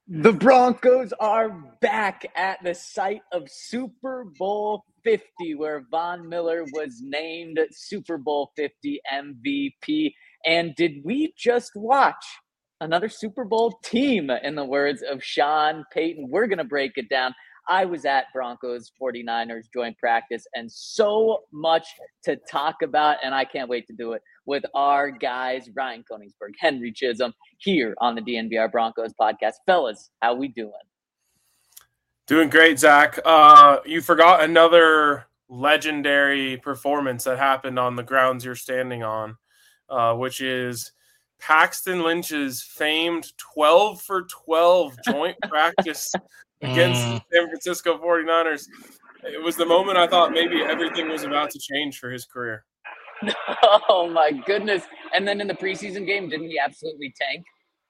The Broncos are back at the site of Super Bowl 50, where Von Miller was named Super Bowl 50 MVP. And did we just watch another Super Bowl team, in the words of Sean Payton? We're going to break it down. I was at Broncos 49ers joint practice, and so much to talk about, and I can't wait to do it with our guys, Ryan Koenigsberg, Henry Chisholm, here on the DNVR Broncos podcast. Fellas, how we doing? Doing great, Zach. You forgot another legendary performance that happened on the grounds you're standing on, which is Paxton Lynch's famed 12 for 12 joint practice against the San Francisco 49ers. It was the moment I thought maybe everything was about to change for his career. Oh, my goodness. And then in the preseason game, didn't he absolutely tank?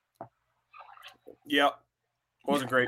Yep. Wasn't great.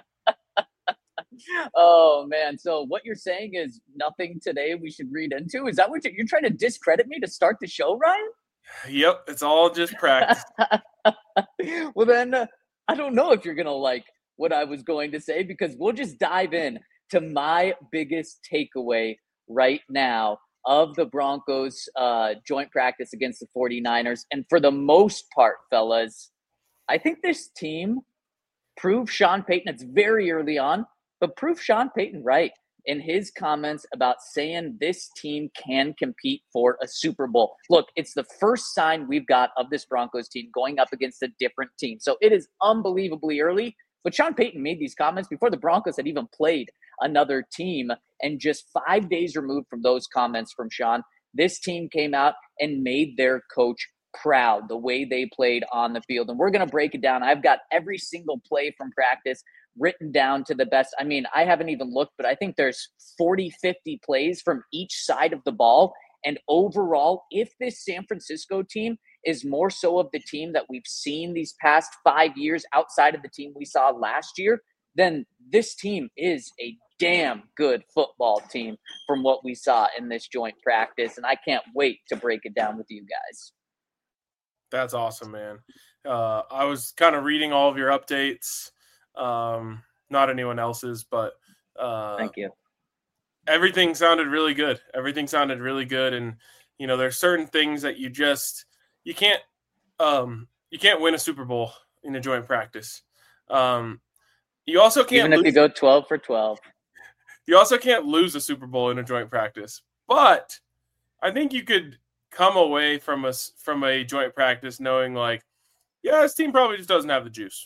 Oh, man. So what you're saying is nothing today we should read into? Is that what you're trying to discredit me to start the show, Ryan? Yep. It's all just practice. Well, then I don't know if you're going to like what I was going to say, because we'll just dive in to my biggest takeaway right now of the Broncos joint practice against the 49ers. And for the most part, fellas, I think this team proved Sean Payton, it's very early on, but proved Sean Payton right in his comments about saying this team can compete for a Super Bowl. Look, it's the first sign we've got of this Broncos team going up against a different team. So it is unbelievably early, but Sean Payton made these comments before the Broncos had even played another team. And just 5 days removed from those comments from Sean, this team came out and made their coach proud the way they played on the field. And we're going to break it down. I've got every single play from practice written down to the best. I mean, I haven't even looked, but I think there's 40, 50 plays from each side of the ball. And overall, if this San Francisco team is more so of the team that we've seen these past 5 years outside of the team we saw last year, then this team is a damn good football team from what we saw in this joint practice. And I can't wait to break it down with you guys. That's awesome, man. I was kind of reading all of your updates, not anyone else's, but Thank you. Everything sounded really good. And there's certain things that you can't win a Super Bowl in a joint practice. You also can't even if you go 12 for 12. You also can't lose a Super Bowl in a joint practice, but I think you could come away from a joint practice knowing, like, yeah, this team probably just doesn't have the juice.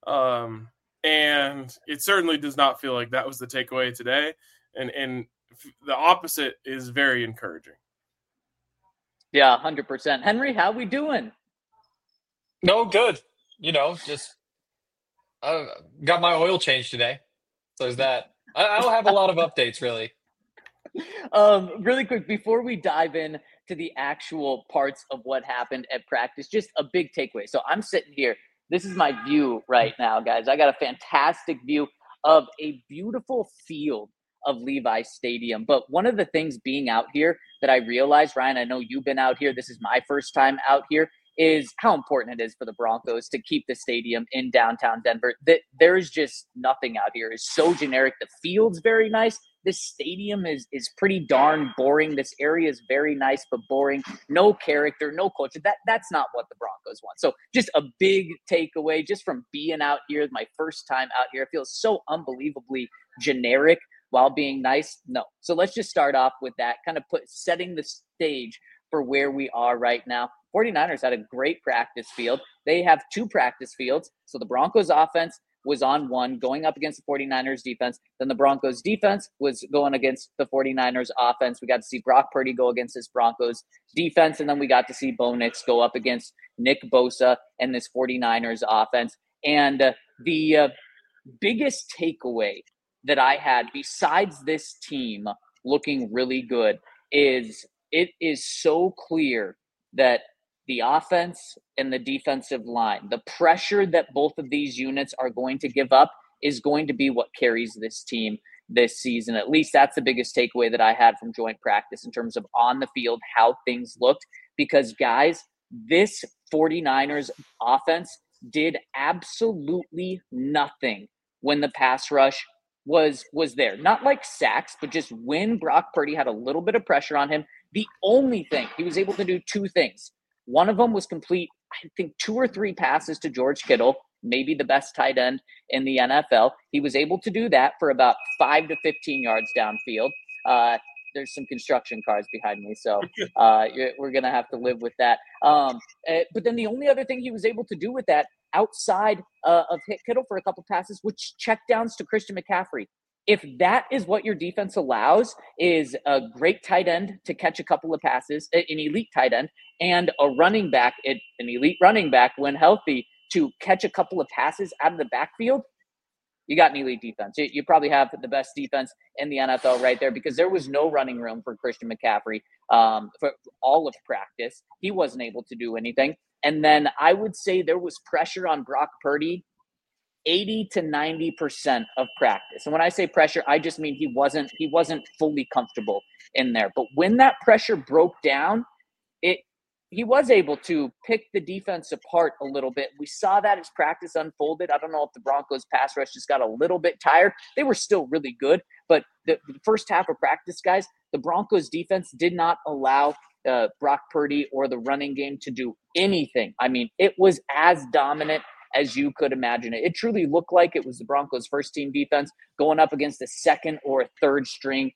And it certainly does not feel like that was the takeaway today. And the opposite is very encouraging. Yeah, 100%. Henry, how we doing? No, good. Just got my oil change today. So there's that. I don't have a lot of updates, really. Really quick, before we dive in to the actual parts of what happened at practice, just a big takeaway. So I'm sitting here. This is my view right now, guys. I got a fantastic view of a beautiful field of Levi Stadium. But one of the things being out here that I realized, Ryan, I know you've been out here, this is my first time out here, is how important it is for the Broncos to keep the stadium in downtown Denver. There is just nothing out here. It's so generic. The field's very nice. This stadium is pretty darn boring. This area is very nice but boring. No character, no culture. That's not what the Broncos want. So just a big takeaway just from being out here, my first time out here. It feels so unbelievably generic while being nice. No. So let's just start off with that, kind of setting the stage for where we are right now. 49ers had a great practice field. They have two practice fields. So the Broncos offense was on one going up against the 49ers defense. Then the Broncos defense was going against the 49ers offense. We got to see Brock Purdy go against this Broncos defense. And then we got to see Bo Nix go up against Nick Bosa and this 49ers offense. And the biggest takeaway that I had, besides this team looking really good, is it is so clear that the offense and the defensive line, the pressure that both of these units are going to give up is going to be what carries this team this season. At least that's the biggest takeaway that I had from joint practice in terms of on the field, how things looked. Because, guys, this 49ers offense did absolutely nothing when the pass rush was there. Not like sacks, but just when Brock Purdy had a little bit of pressure on him. The only thing he was able to do, two things. One of them was complete, I think, 2 or 3 passes to George Kittle, maybe the best tight end in the NFL. He was able to do that for about 5 to 15 yards downfield. There's some construction cars behind me, so we're going to have to live with that. But then the only other thing he was able to do with that outside of hit Kittle for a couple passes, which checkdowns to Christian McCaffrey. If that is what your defense allows, is a great tight end to catch a couple of passes, an elite tight end, and a running back, an elite running back when healthy, to catch a couple of passes out of the backfield, you got an elite defense. You probably have the best defense in the NFL right there, because there was no running room for Christian McCaffrey for all of practice. He wasn't able to do anything. And then I would say there was pressure on Brock Purdy 80 to 90% of practice. And when I say pressure, I just mean he wasn't fully comfortable in there. But when that pressure broke down, he was able to pick the defense apart a little bit. We saw that as practice unfolded. I don't know if the Broncos pass rush just got a little bit tired. They were still really good, but the first half of practice, guys, the Broncos defense did not allow Brock Purdy or the running game to do anything. I mean, it was as dominant as you could imagine it. It truly looked like it was the Broncos' first team defense going up against a second or a third string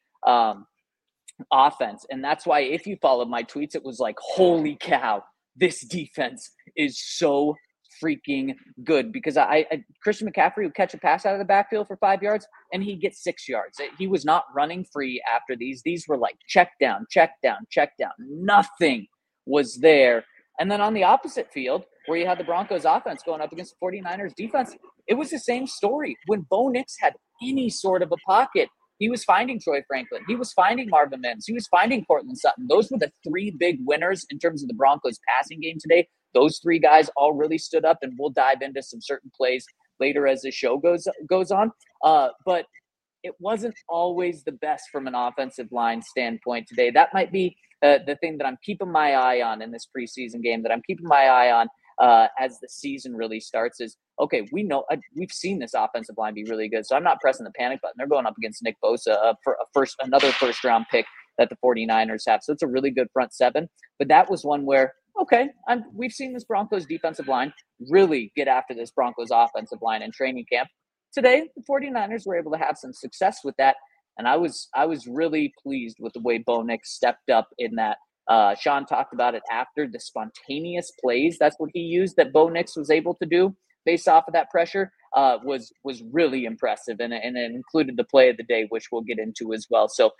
offense. And that's why if you followed my tweets, it was like, holy cow, this defense is so freaking good. Because Christian McCaffrey would catch a pass out of the backfield for 5 yards and he'd get 6 yards. He was not running free after these. These were like check down, check down, check down. Nothing was there. And then on the opposite field, where you had the Broncos offense going up against the 49ers defense, it was the same story. When Bo Nix had any sort of a pocket, he was finding Troy Franklin. He was finding Marvin Mims. He was finding Courtland Sutton. Those were the 3 big winners in terms of the Broncos passing game today. Those 3 guys all really stood up, and we'll dive into some certain plays later as the show goes on. But it wasn't always the best from an offensive line standpoint today. That might be the thing that I'm keeping my eye on in this preseason game, that I'm keeping my eye on as the season really starts is, okay, we know we've seen this offensive line be really good. So I'm not pressing the panic button. They're going up against Nick Bosa for another first round pick that the 49ers have. So it's a really good front seven. But that was one where, okay, we've seen this Broncos defensive line really get after this Broncos offensive line in training camp. Today, the 49ers were able to have some success with that. And I was really pleased with the way Bo Nix stepped up in that. Sean talked about it after, the spontaneous plays. That's what he used, that Bo Nix was able to do based off of that pressure, was really impressive. And it included the play of the day, which we'll get into as well. So,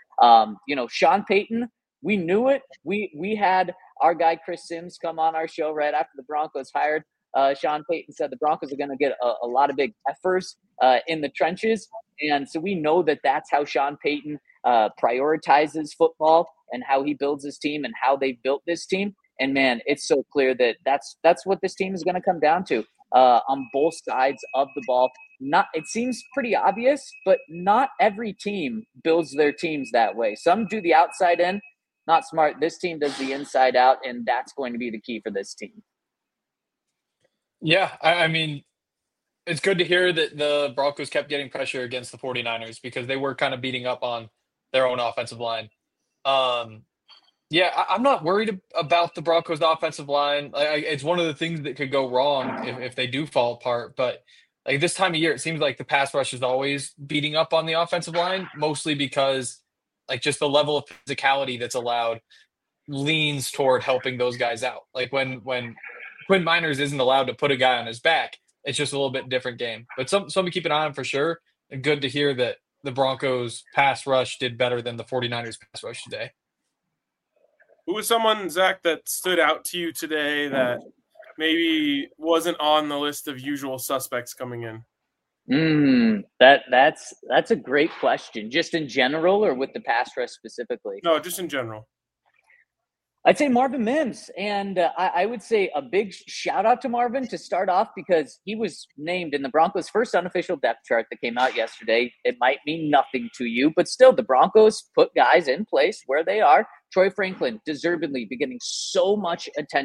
Sean Payton, we knew it. We had our guy Chris Sims come on our show right after the Broncos hired Sean Payton. Said the Broncos are going to get a lot of big effers in the trenches. And so we know that that's how Sean Payton prioritizes football and how he builds his team and how they built this team. And man, it's so clear that that's what this team is going to come down to on both sides of the ball. It seems pretty obvious, but not every team builds their teams that way. Some do the outside in, not smart. This team does the inside out, and that's going to be the key for this team. Yeah, I mean, it's good to hear that the Broncos kept getting pressure against the 49ers, because they were kind of beating up on their own offensive line. I'm not worried about the Broncos offensive line. It's one of the things that could go wrong if they do fall apart. But like this time of year, it seems like the pass rush is always beating up on the offensive line, mostly because like just the level of physicality that's allowed leans toward helping those guys out. Like when Quinn Miners isn't allowed to put a guy on his back, it's just a little bit different game. But something to keep an eye on for sure. And good to hear that the Broncos pass rush did better than the 49ers pass rush today. Who was someone, Zach, that stood out to you today that maybe wasn't on the list of usual suspects coming in? That's a great question. Just in general, or with the pass rush specifically? No, just in general. I'd say Marvin Mims, and I would say a big shout out to Marvin to start off, because he was named in the Broncos' first unofficial depth chart that came out yesterday. It might mean nothing to you, but still, the Broncos put guys in place where they are. Troy Franklin, deservedly, be getting so much attention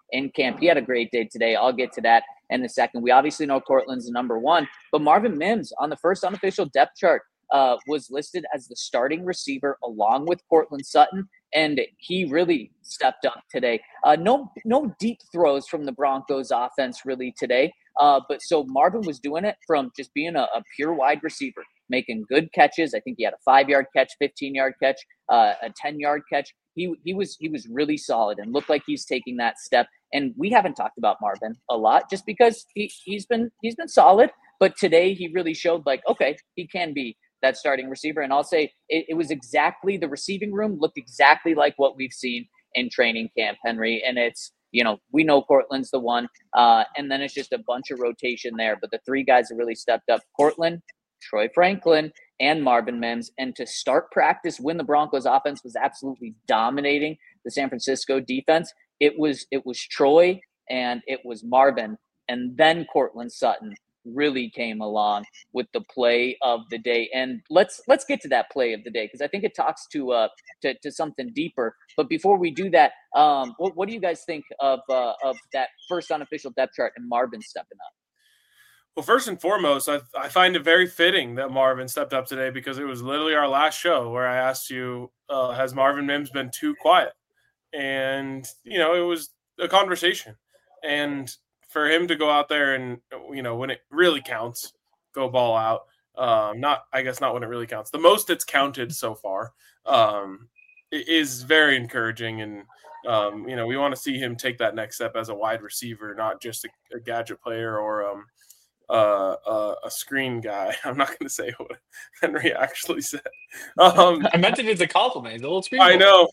in camp. He had a great day today. I'll get to that in a second. We obviously know Cortland's the number one, but Marvin Mims on the first unofficial depth chart was listed as the starting receiver along with Cortland Sutton, and he really stepped up today. No deep throws from the Broncos offense really today, but so Marvin was doing it from just being a pure wide receiver, making good catches. I think he had a 5-yard catch, 15-yard catch, a 10-yard catch. He was really solid and looked like he's taking that step. And we haven't talked about Marvin a lot just because he's been solid, but today he really showed like, okay, he can be that starting receiver. And I'll say it was exactly, the receiving room looked exactly like what we've seen in training camp, Henry. And it's, we know Cortland's the one, and then it's just a bunch of rotation there. But the three guys that really stepped up, Cortland, Troy Franklin, and Marvin Mims. And to start practice when the Broncos offense was absolutely dominating the San Francisco defense, it was Troy and it was Marvin, and then Cortland Sutton really came along with the play of the day. And let's get to that play of the day because I think it talks to something deeper. But before we do that, what do you guys think of that first unofficial depth chart and Marvin stepping up? Well, first and foremost, I find it very fitting that Marvin stepped up today because it was literally our last show where I asked you, has Marvin Mims been too quiet? And, it was a conversation. And for him to go out there and, when it really counts, go ball out. Not when it really counts. The most it's counted so far is very encouraging. And, we want to see him take that next step as a wide receiver, not just a gadget player or a screen guy. I'm not going to say what Henry actually said. I meant it as a compliment. He's a little screen. I know.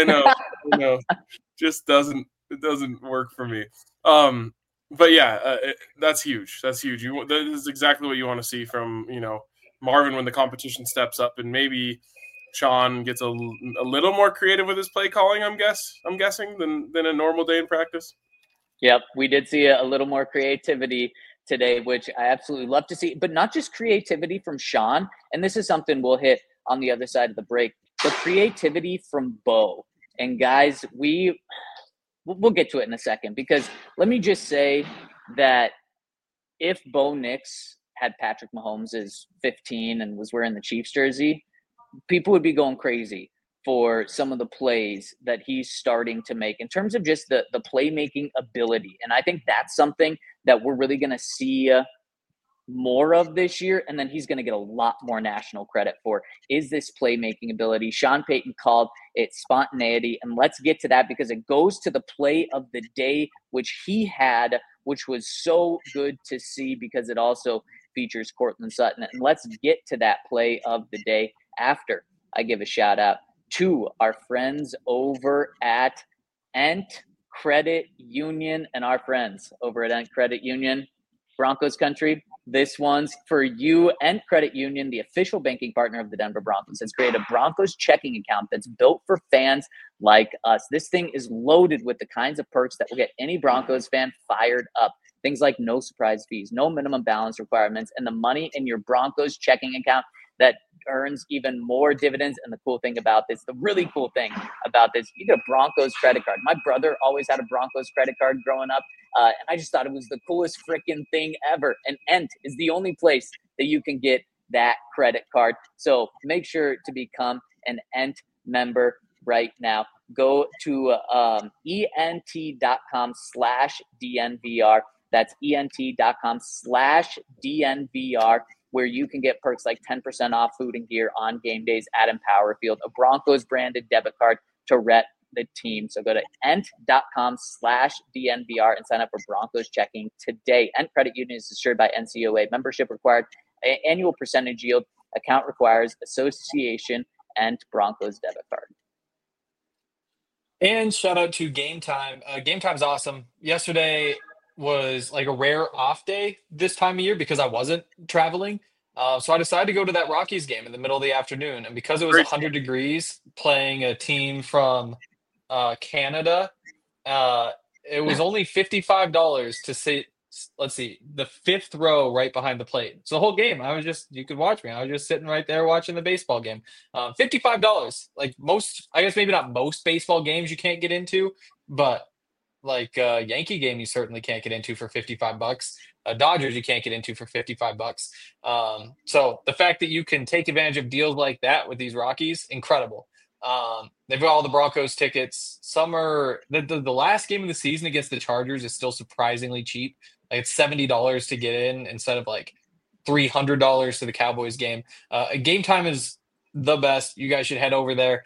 Just doesn't work for me. But yeah, that's huge. That's huge. That is exactly what you want to see from Marvin when the competition steps up, and maybe Sean gets a little more creative with his play calling. I'm guessing than a normal day in practice. Yep, we did see a little more creativity today, which I absolutely love to see, but not just creativity from Sean. And this is something we'll hit on the other side of the break, but creativity from Bo. And guys, we'll get to it in a second, because let me just say that if Bo Nix had Patrick Mahomes' 15 and was wearing the Chiefs jersey, people would be going crazy for some of the plays that he's starting to make in terms of just the playmaking ability. And I think that's something that we're really going to see more of this year. And then he's going to get a lot more national credit for, is this playmaking ability. Sean Payton called it spontaneity. And let's get to that because it goes to the play of the day, which he had, which was so good to see because it also features Cortland Sutton. And let's get to that play of the day after I give a shout out to our friends over at Ent Credit Union and our friends over at Ent Credit Union. Broncos country, this one's for you. Ent Credit Union, the official banking partner of the Denver Broncos, has created a Broncos checking account that's built for fans like us. This thing is loaded with the kinds of perks that will get any Broncos fan fired up. Things like no surprise fees, no minimum balance requirements, and the money in your Broncos checking account that earns even more dividends. And the cool thing about this, the really cool thing about this, you get a Broncos credit card. My brother always had a Broncos credit card growing up, and I just thought it was the coolest freaking thing ever. And Ent is the only place that you can get that credit card. So make sure to become an Ent member right now. Go to ent.com/DNVR. That's ent.com/DNVR, where you can get perks like 10% off food and gear on game days at Empower Field, a Broncos branded debit card to rep the team. So go to ent.com/DNVR and sign up for Broncos checking today. Ent Credit Union is insured by NCOA. Membership required. Annual percentage yield. Account requires association. Ent Broncos debit card. And shout out to Game Time. Game Time's awesome. Yesterday was like a rare off day this time of year because I wasn't traveling. So I decided to go to that Rockies game in the middle of the afternoon. And because it was 100 degrees playing a team from Canada, it was only $55 to sit, the fifth row right behind the plate. So the whole game, you could watch me. I was just sitting right there watching the baseball game. $55. Like most, I guess maybe not most baseball games you can't get into, but Yankee game you certainly can't get into for $55. Dodgers you can't get into for $55. So the fact that you can take advantage of deals like that with these Rockies, incredible. They've got all the Broncos tickets. Some are the last game of the season against the Chargers is still surprisingly cheap. Like it's $70 to get in instead of like $300 to the Cowboys game. Game time is the best. You guys should head over there.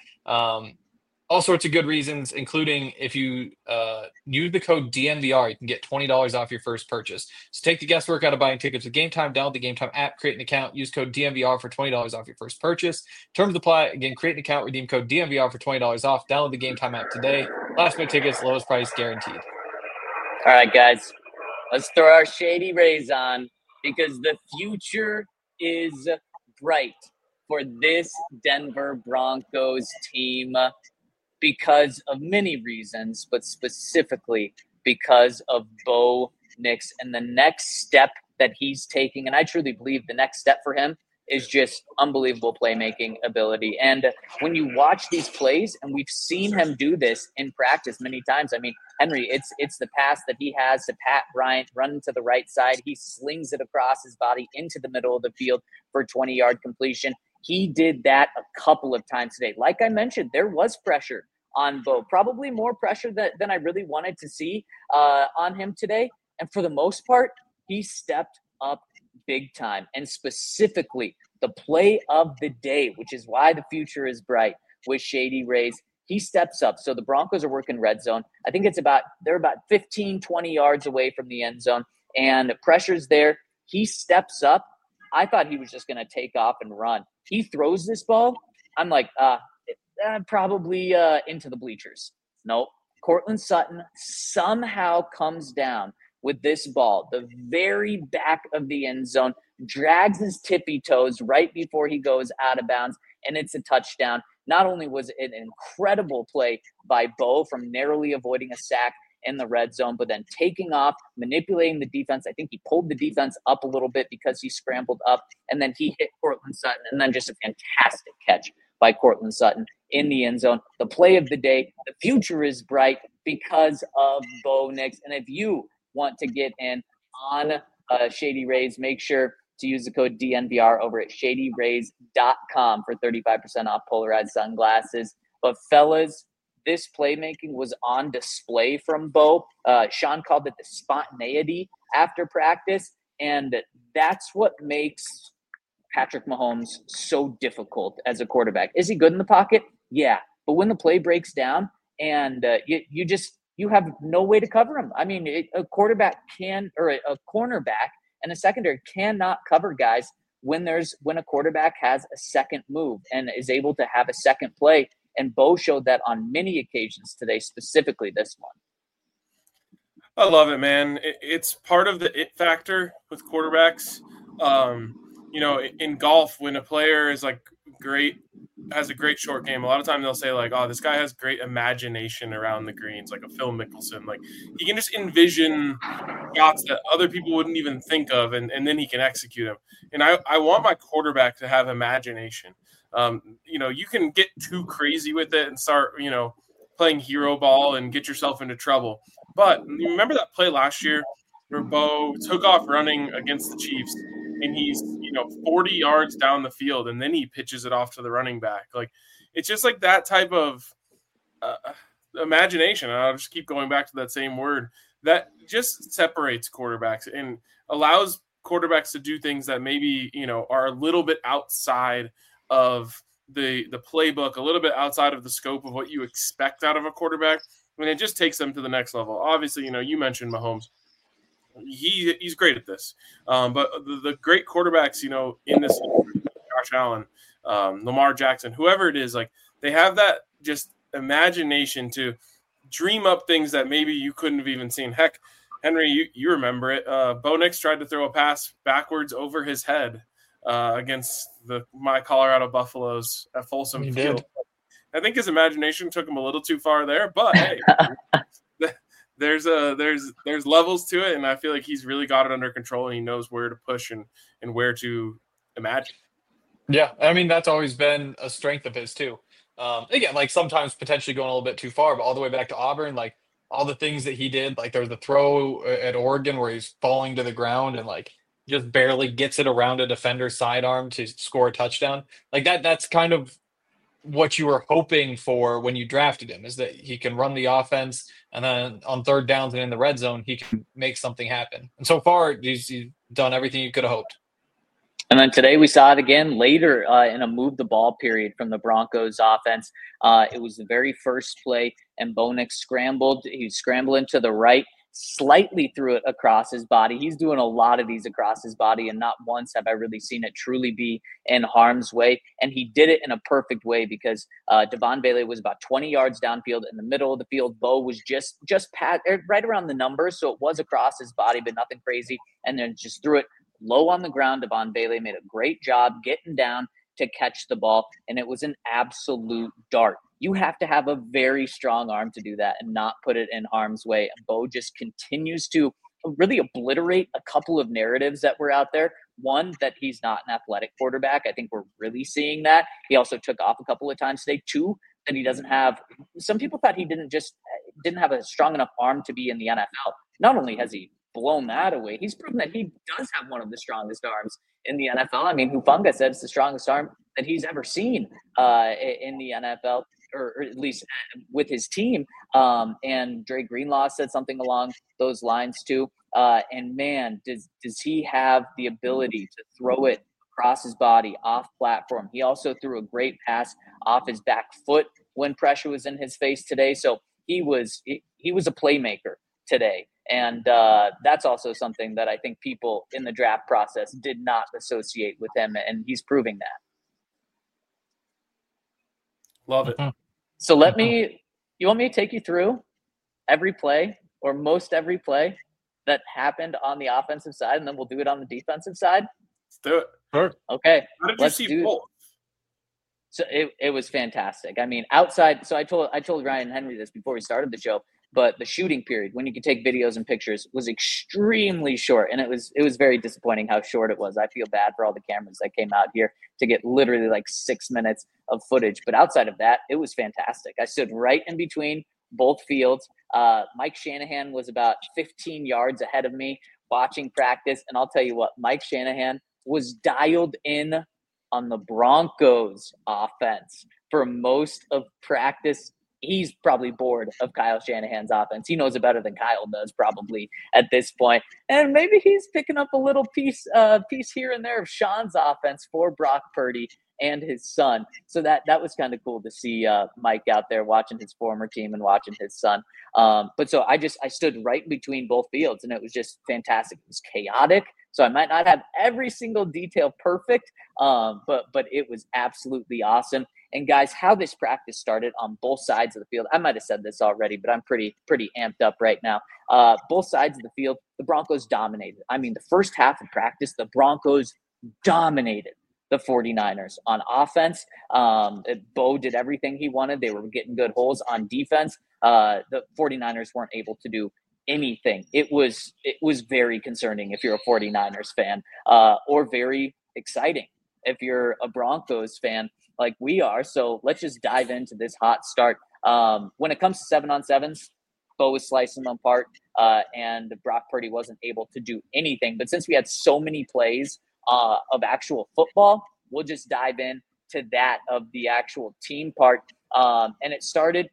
All sorts of good reasons, including if you use the code DNVR, you can get $20 off your first purchase. So take the guesswork out of buying tickets with Game Time. Download the Game Time app, create an account, use code DNVR for $20 off your first purchase. Terms apply. Again, create an account, redeem code DNVR for $20 off. Download the Game Time app today. Last minute tickets, lowest price guaranteed. All right, guys, let's throw our Shady Rays on because the future is bright for this Denver Broncos team because of many reasons, but specifically because of Bo Nix and the next step that he's taking. And I truly believe the next step for him is just unbelievable playmaking ability. And when you watch these plays, and we've seen him do this in practice many times. I mean, Henry, it's the pass that he has to Pat Bryant, run to the right side. He slings it across his body into the middle of the field for 20-yard completion. He did that a couple of times today. Like I mentioned, there was pressure on Bo, probably more pressure than I really wanted to see on him today. And for the most part, he stepped up big time. And specifically, the play of the day, which is why the future is bright with Shady Rays, he steps up. So the Broncos are working red zone. I think they're about 15, 20 yards away from the end zone. And pressure's there. He steps up. I thought he was just going to take off and run. He throws this ball. I'm like, probably into the bleachers. Nope. Cortland Sutton somehow comes down with this ball, the very back of the end zone, drags his tippy toes right before he goes out of bounds, and it's a touchdown. Not only was it an incredible play by Bo from narrowly avoiding a sack in the red zone, but then taking off, manipulating the defense. I think he pulled the defense up a little bit because he scrambled up, and then he hit Cortland Sutton, and then just a fantastic catch by Cortland Sutton in the end zone. The play of the day, the future is bright because of Bo Nix. And if you want to get in on Shady Rays, make sure to use the code DNVR over at shadyrays.com for 35% off polarized sunglasses. But fellas, this playmaking was on display from Bo. Sean called it the spontaneity after practice, and that's what makes Patrick Mahomes so difficult as a quarterback. Is he good in the pocket? Yeah. But when the play breaks down and you have no way to cover him. I mean, a cornerback and a secondary cannot cover guys when a quarterback has a second move and is able to have a second play. And Bo showed that on many occasions today, specifically this one. I love it, man. It's part of the it factor with quarterbacks. In golf, when a player is like has a great short game, a lot of times they'll say like, oh, this guy has great imagination around the greens, like a Phil Mickelson. Like he can just envision shots that other people wouldn't even think of, and then he can execute them. And I want my quarterback to have imagination. You can get too crazy with it and start, playing hero ball and get yourself into trouble. But you remember that play last year where Bo took off running against the Chiefs and he's, 40 yards down the field and then he pitches it off to the running back. Like, it's just like that type of imagination. And I'll just keep going back to that same word that just separates quarterbacks and allows quarterbacks to do things that maybe, are a little bit outside of the playbook, a little bit outside of the scope of what you expect out of a quarterback. I mean, it just takes them to the next level. Obviously, you mentioned Mahomes. He's great at this. But the great quarterbacks, in this, Josh Allen, Lamar Jackson, whoever it is, like they have that just imagination to dream up things that maybe you couldn't have even seen. Heck, Henry, you remember it. Bo Nix tried to throw a pass backwards over his head against my Colorado Buffaloes at Folsom Field. Did. I think his imagination took him a little too far there, but hey, there's levels to it, and I feel like he's really got it under control, and he knows where to push and where to imagine. Yeah, I mean, that's always been a strength of his too. Again, like sometimes potentially going a little bit too far, but all the way back to Auburn, like all the things that he did. Like there was a throw at Oregon where he's falling to the ground and like just barely gets it around a defender's sidearm to score a touchdown. Like that's kind of what you were hoping for when you drafted him, is that he can run the offense, and then on third downs and in the red zone, he can make something happen. And so far, he's done everything you could have hoped. And then today we saw it again later in a move the ball period from the Broncos offense. It was the very first play, and Bo Nix scrambled. He was scrambling to the right, slightly threw it across his body. He's doing a lot of these across his body, and not once have I really seen it truly be in harm's way. And he did it in a perfect way because Devon Bailey was about 20 yards downfield in the middle of the field. Bo was just right around the numbers, so it was across his body, but nothing crazy, and then just threw it low on the ground. Devon Bailey made a great job getting down to catch the ball, and it was an absolute dart. You have to have a very strong arm to do that and not put it in harm's way. And Bo just continues to really obliterate a couple of narratives that were out there. One, that he's not an athletic quarterback. I think we're really seeing that. He also took off a couple of times today. Two, that he doesn't have – some people thought he didn't have a strong enough arm to be in the NFL. Not only has he blown that away, he's proven that he does have one of the strongest arms in the NFL. I mean, Hufanga said it's the strongest arm that he's ever seen in the NFL, or at least with his team. And Dre Greenlaw said something along those lines too. And man, does he have the ability to throw it across his body, off platform. He also threw a great pass off his back foot when pressure was in his face today. So he was a playmaker today. And that's also something that I think people in the draft process did not associate with him, and he's proving that. Love it. So you want me to take you through every play, or most every play that happened on the offensive side, and then we'll do it on the defensive side? Let's do it. Sure. Okay. How did you see both? So it was fantastic. I mean, outside. So I told Ryan Henry this before we started the show, but the shooting period, when you could take videos and pictures, was extremely short, and it was very disappointing how short it was. I feel bad for all the cameras that came out here to get literally like 6 minutes of footage. But outside of that, it was fantastic. I stood right in between both fields. Mike Shanahan was about 15 yards ahead of me watching practice, and I'll tell you what, Mike Shanahan was dialed in on the Broncos offense for most of practice. He's probably bored of Kyle Shanahan's offense. He knows it better than Kyle does probably at this point. And maybe he's picking up a little piece here and there of Sean's offense for Brock Purdy and his son. So that was kind of cool to see Mike out there watching his former team and watching his son. But so I stood right between both fields, and it was just fantastic. It was chaotic. So I might not have every single detail perfect, but it was absolutely awesome. And guys, how this practice started on both sides of the field, I might have said this already, but I'm pretty amped up right now. Both sides of the field, the Broncos dominated. I mean, the first half of practice, the Broncos dominated the 49ers on offense. Bo did everything he wanted. They were getting good holes on defense. The 49ers weren't able to do anything. It was very concerning if you're a 49ers fan, or very exciting if you're a Broncos fan like we are. So let's just dive into this hot start. When it comes to 7-on-7s, Bo was slicing them apart, and Brock Purdy wasn't able to do anything. But since we had so many plays of actual football, we'll just dive in to that of the actual team part. And it started,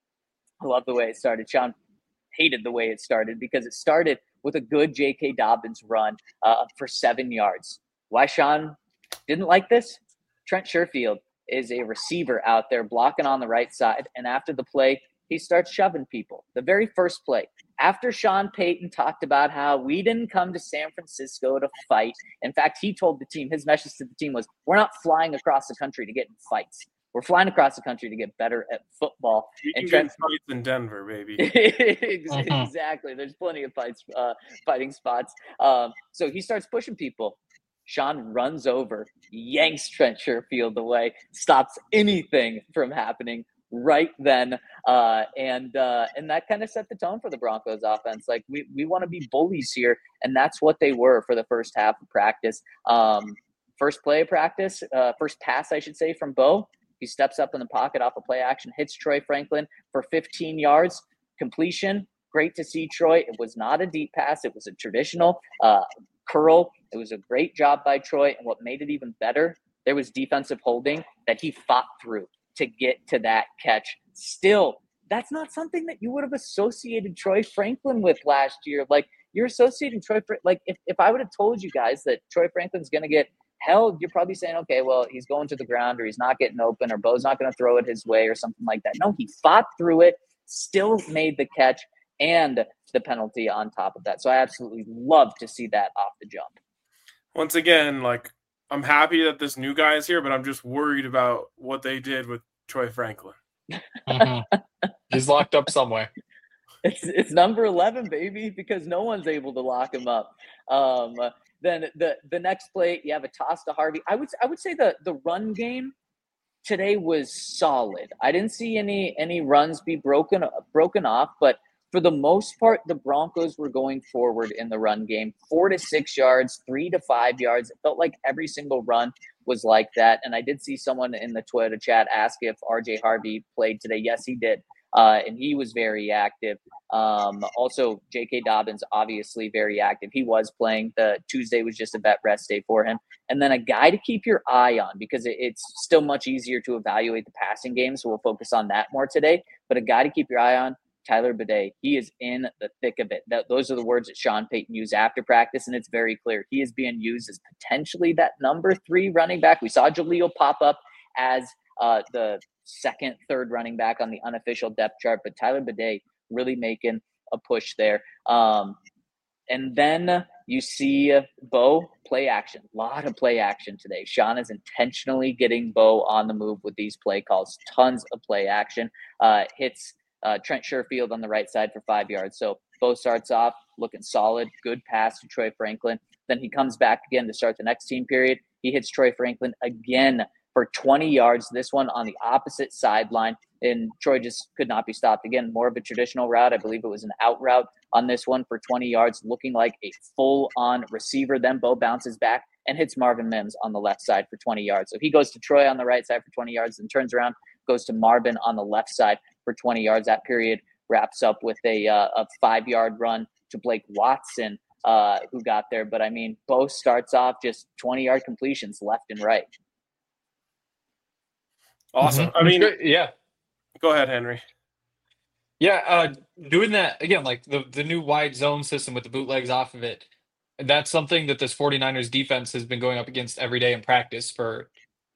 I love the way it started. Sean hated the way it started because it started with a good J.K. Dobbins run for 7 yards. Why Sean didn't like this? Trent Sherfield is a receiver out there blocking on the right side, and after the play, he starts shoving people. The very first play, after Sean Payton talked about how we didn't come to San Francisco to fight. In fact, he told the team, his message to the team was, we're not flying across the country to get in fights. We're flying across the country to get better at football. You can get fights in Denver, baby. Exactly. There's plenty of fighting spots. So he starts pushing people. Sean runs over, yanks Trent Sherfield away, stops anything from happening right then. And that kind of set the tone for the Broncos offense. Like we want to be bullies here. And that's what they were for the first half of practice. First play of practice, first pass, I should say, from Bo. He steps up in the pocket off a play action, hits Troy Franklin for 15 yards. completion, great to see Troy. It was not a deep pass. It was a traditional curl. It was a great job by Troy. And what made it even better, there was defensive holding that he fought through to get to that catch. Still, that's not something that you would have associated Troy Franklin with last year. Like, you're associating Troy, like if I would have told you guys that Troy Franklin's going to get held, you're probably saying, okay, well, he's going to the ground, or he's not getting open, or Bo's not going to throw it his way or something like that. No, he fought through it, still made the catch and the penalty on top of that. So I absolutely love to see that off the jump. Once again, like, I'm happy that this new guy is here, but I'm just worried about what they did with Troy Franklin. He's locked up somewhere. It's number 11, baby, because no one's able to lock him up. Then the next play, you have a toss to Harvey. I would say the run game today was solid. I didn't see any runs be broken off, but for the most part, the Broncos were going forward in the run game, 4 to 6 yards, 3 to 5 yards. It felt like every single run was like that. And I did see someone in the Twitter chat ask if RJ Harvey played today. Yes, he did. And he was very active. Also, J.K. Dobbins, obviously very active. He was playing. The Tuesday was just a vet rest day for him. And then a guy to keep your eye on, because it's still much easier to evaluate the passing game, so we'll focus on that more today. But a guy to keep your eye on, Tyler Bidet. He is in the thick of it. Those are the words that Sean Payton used after practice, and it's very clear. He is being used as potentially that number 3 running back. We saw Jaleel pop up as the second, third running back on the unofficial depth chart, but Tyler Bidet really making a push there. And then you see Bo play action. A lot of play action today. Sean is intentionally getting Bo on the move with these play calls. Tons of play action. Hits Trent Sherfield on the right side for 5 yards. So Bo starts off looking solid. Good pass to Troy Franklin. Then he comes back again to start the next team period. He hits Troy Franklin again for 20 yards, this one on the opposite sideline. And Troy just could not be stopped. Again, more of a traditional route. I believe it was an out route on this one for 20 yards, looking like a full-on receiver. Then Bo bounces back and hits Marvin Mims on the left side for 20 yards. So he goes to Troy on the right side for 20 yards and turns around, goes to Marvin on the left side for 20 yards. That period wraps up with a 5-yard run to Blake Watson, who got there. But, I mean, Bo starts off just 20-yard completions left and right. Awesome. I mean, yeah. Go ahead, Henry. Yeah, doing that, again, like the new wide zone system with the bootlegs off of it, that's something that this 49ers defense has been going up against every day in practice for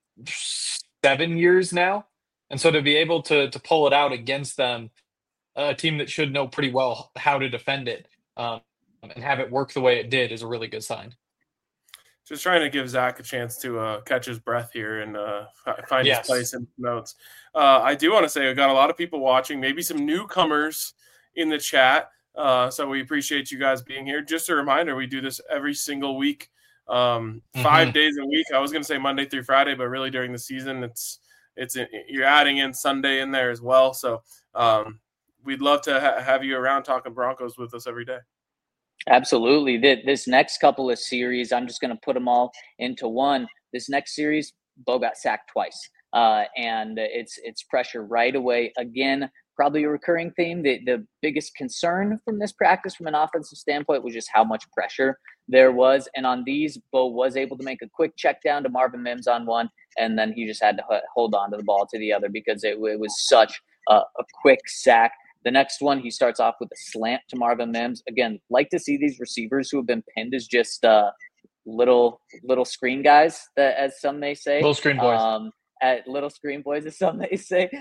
7 years now. And so to be able to pull it out against them, a team that should know pretty well how to defend it, and have it work the way it did, is a really good sign. Just trying to give Zach a chance to catch his breath here and find his place in the notes. I do want to say we got a lot of people watching, maybe some newcomers in the chat. So we appreciate you guys being here. Just a reminder, we do this every single week, 5 days a week. I was going to say Monday through Friday, but really during the season, it's you're adding in Sunday in there as well. So we'd love to have you around talking Broncos with us every day. Absolutely. This next couple of series, I'm just going to put them all into one. This next series, Bo got sacked twice, and it's pressure right away. Again, probably a recurring theme. The biggest concern from this practice from an offensive standpoint was just how much pressure there was. And on these, Bo was able to make a quick check down to Marvin Mims on one, and then he just had to hold on to the ball to the other because it was such a quick sack. The next one, he starts off with a slant to Marvin Mims. Again, like to see these receivers who have been pinned as just little screen guys, as some may say. Little screen boys. Little screen boys, as some may say.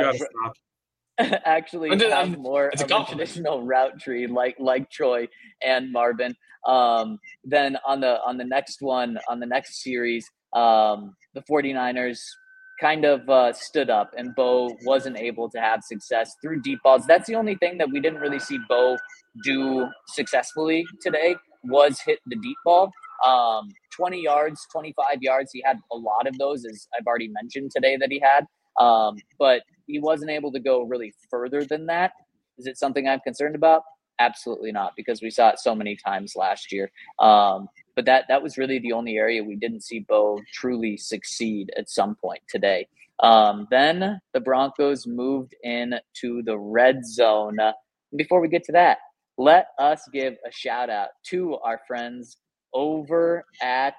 Actually have more of a traditional route tree like Troy and Marvin. Then on the next one, on the next series, the 49ers kind of stood up, and Bo wasn't able to have success through deep balls. That's the only thing that we didn't really see Bo do successfully today, was hit the deep ball. 20 yards, 25 yards. He had a lot of those, as I've already mentioned today that he had. But he wasn't able to go really further than that. Is it something I'm concerned about? Absolutely not, because we saw it so many times last year. But that was really the only area we didn't see Bo truly succeed at some point today. Then the Broncos moved in to the red zone. Before we get to that, let us give a shout out to our friends over at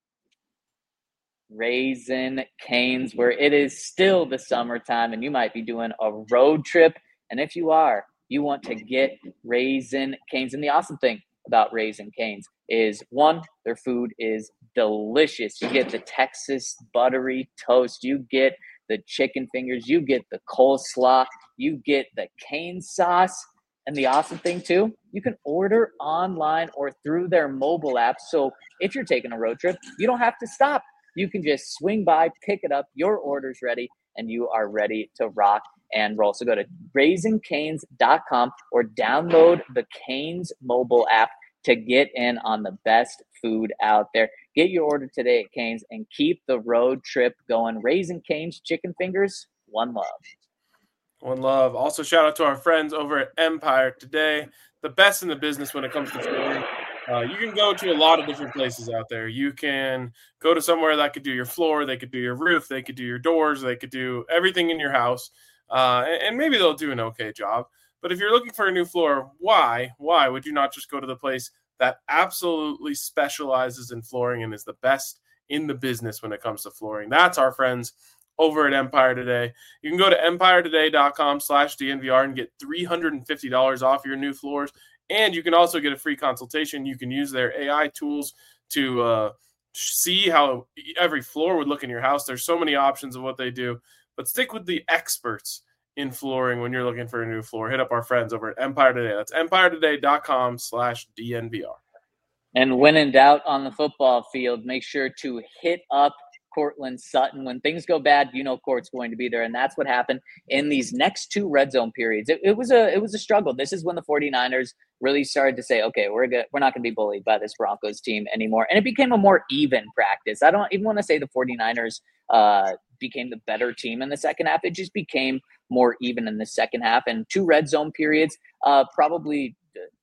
Raising Cane's, where it is still the summertime and you might be doing a road trip. And if you are, you want to get Raising Cane's. And the awesome thing about Raising Cane's is, one, their food is delicious. You get the Texas buttery toast, you get the chicken fingers, you get the coleslaw, you get the cane sauce. And the awesome thing too, you can order online or through their mobile app. So if you're taking a road trip, you don't have to stop. You can just swing by, pick it up, your order's ready, and you are ready to rock and roll. So go to raisingcanes.com or download the Canes mobile app to get in on the best food out there. Get your order today at Canes and keep the road trip going. Raising Canes chicken fingers, one love. One love. Also, shout out to our friends over at Empire Today, the best in the business when it comes to flooring. You can go to a lot of different places out there. You can go to somewhere that could do your floor, they could do your roof, they could do your doors, they could do everything in your house, and maybe they'll do an okay job. But if you're looking for a new floor, why would you not just go to the place that absolutely specializes in flooring and is the best in the business when it comes to flooring? That's our friends over at Empire Today. You can go to empiretoday.com/DNVR and get $350 off your new floors. And you can also get a free consultation. You can use their AI tools to see how every floor would look in your house. There's so many options of what they do. But stick with the experts in flooring when you're looking for a new floor. Hit up our friends over at Empire Today. That's empiretoday.com/DNVR. And when in doubt on the football field, make sure to hit up Courtland Sutton. When things go bad, you know Court's going to be there. And that's what happened in these next two red zone periods. It was a struggle. This is when the 49ers really started to say, okay, we're not going to be bullied by this Broncos team anymore. And it became a more even practice. I don't even want to say the 49ers became the better team in the second half. It just became more even in the second half. And two red zone periods, probably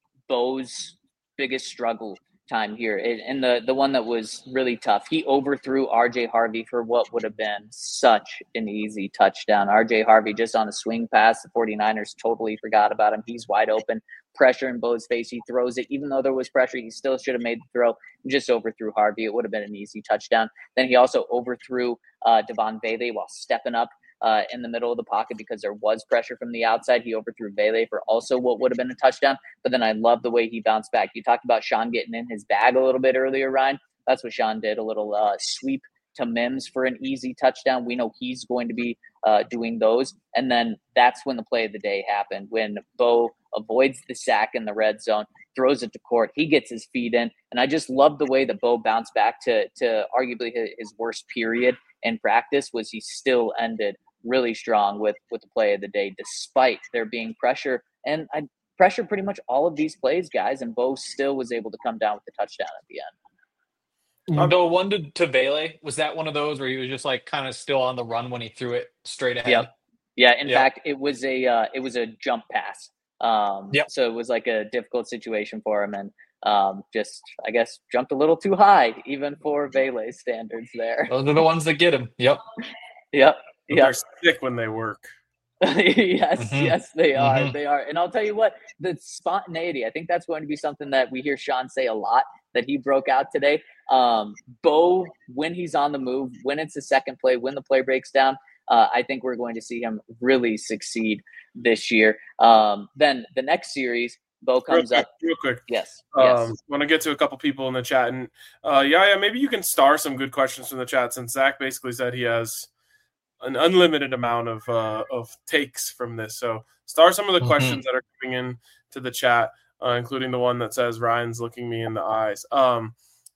Bo's biggest struggle time here. And the one that was really tough, he overthrew RJ Harvey for what would have been such an easy touchdown. RJ Harvey just on a swing pass. The 49ers totally forgot about him. He's wide open. Pressure in Bo's face. He throws it. Even though there was pressure, he still should have made the throw. He just overthrew Harvey. It would have been an easy touchdown. Then he also overthrew Devon Bailey while stepping up in the middle of the pocket because there was pressure from the outside. He overthrew Bailey for also what would have been a touchdown. But then I love the way he bounced back. You talked about Sean getting in his bag a little bit earlier, Ryan. That's what Sean did, a little sweep to Mims for an easy touchdown. We know he's going to be doing those. And then that's when the play of the day happened, when Bo avoids the sack in the red zone, throws it to Court. He gets his feet in. And I just love the way that Bo bounced back to arguably his worst period in practice. Was he still ended really strong with the play of the day, despite there being pressure. And I pressure pretty much all of these plays, guys, and Bo still was able to come down with the touchdown at the end. The one to Bailey, was that one of those where he was just like kind of still on the run when he threw it straight ahead? Yep. Yeah. In fact, it was a jump pass. So it was like a difficult situation for him, and just, I guess, jumped a little too high, even for Bailey's standards there. Those are the ones that get him. Yep. They're sick when they work. Yes, they are. Mm-hmm. They are. And I'll tell you what, the spontaneity, I think that's going to be something that we hear Sean say a lot, that he broke out today. Bo, when he's on the move, when it's the second play, when the play breaks down, I think we're going to see him really succeed this year. Then the next series, Bo comes up. Real quick. Yes. Want to get to a couple people in the chat. And maybe you can star some good questions from the chat, since Zach basically said he has an unlimited amount of takes from this. So star some of the questions that are coming in to the chat, including the one that says Ryan's looking me in the eyes. The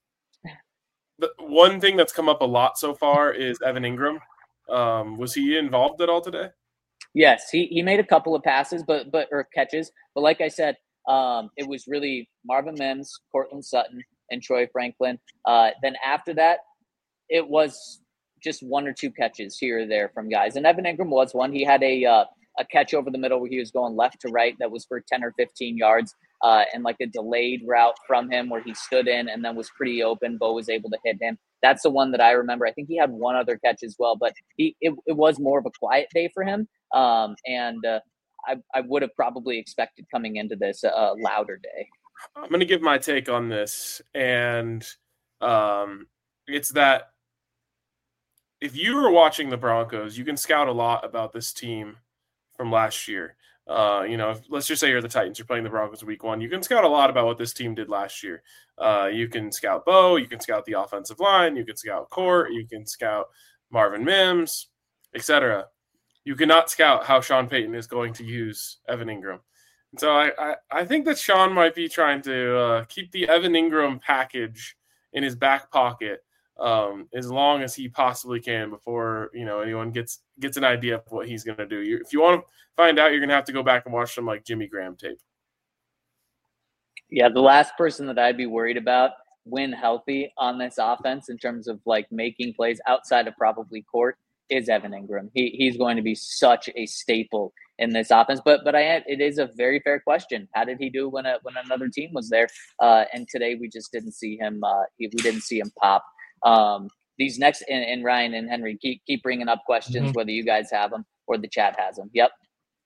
one thing that's come up a lot so far is Evan Ingram. Was he involved at all today? Yes, he made a couple of passes, or catches. But like I said, it was really Marvin Mims, Courtland Sutton, and Troy Franklin. Then after that, it was just one or two catches here or there from guys. And Evan Ingram was one. He had a catch over the middle where he was going left to right that was for 10 or 15 yards, and like a delayed route from him where he stood in and then was pretty open. Bo was able to hit him. That's the one that I remember. I think he had one other catch as well, but it was more of a quiet day for him. And I would have probably expected coming into this louder day. I'm going to give my take on this, and it's that if you were watching the Broncos, you can scout a lot about this team from last year. Let's just say you're the Titans, you're playing the Broncos week 1. You can scout a lot about what this team did last year. You can scout Bo, you can scout the offensive line, you can scout Court, you can scout Marvin Mims, etc. You cannot scout how Sean Payton is going to use Evan Ingram. And so I think that Sean might be trying to keep the Evan Ingram package in his back pocket as long as he possibly can before anyone gets an idea of what he's going to do. If you want to find out, you're going to have to go back and watch some like Jimmy Graham tape. Yeah, the last person that I'd be worried about when healthy on this offense in terms of like making plays outside of probably Court is Evan Ingram. He's going to be such a staple in this offense. But it is a very fair question. How did he do when another team was there? And today we just didn't see him. We didn't see him pop. These next and Ryan and Henry keep bringing up questions, whether you guys have them or the chat has them. Yep.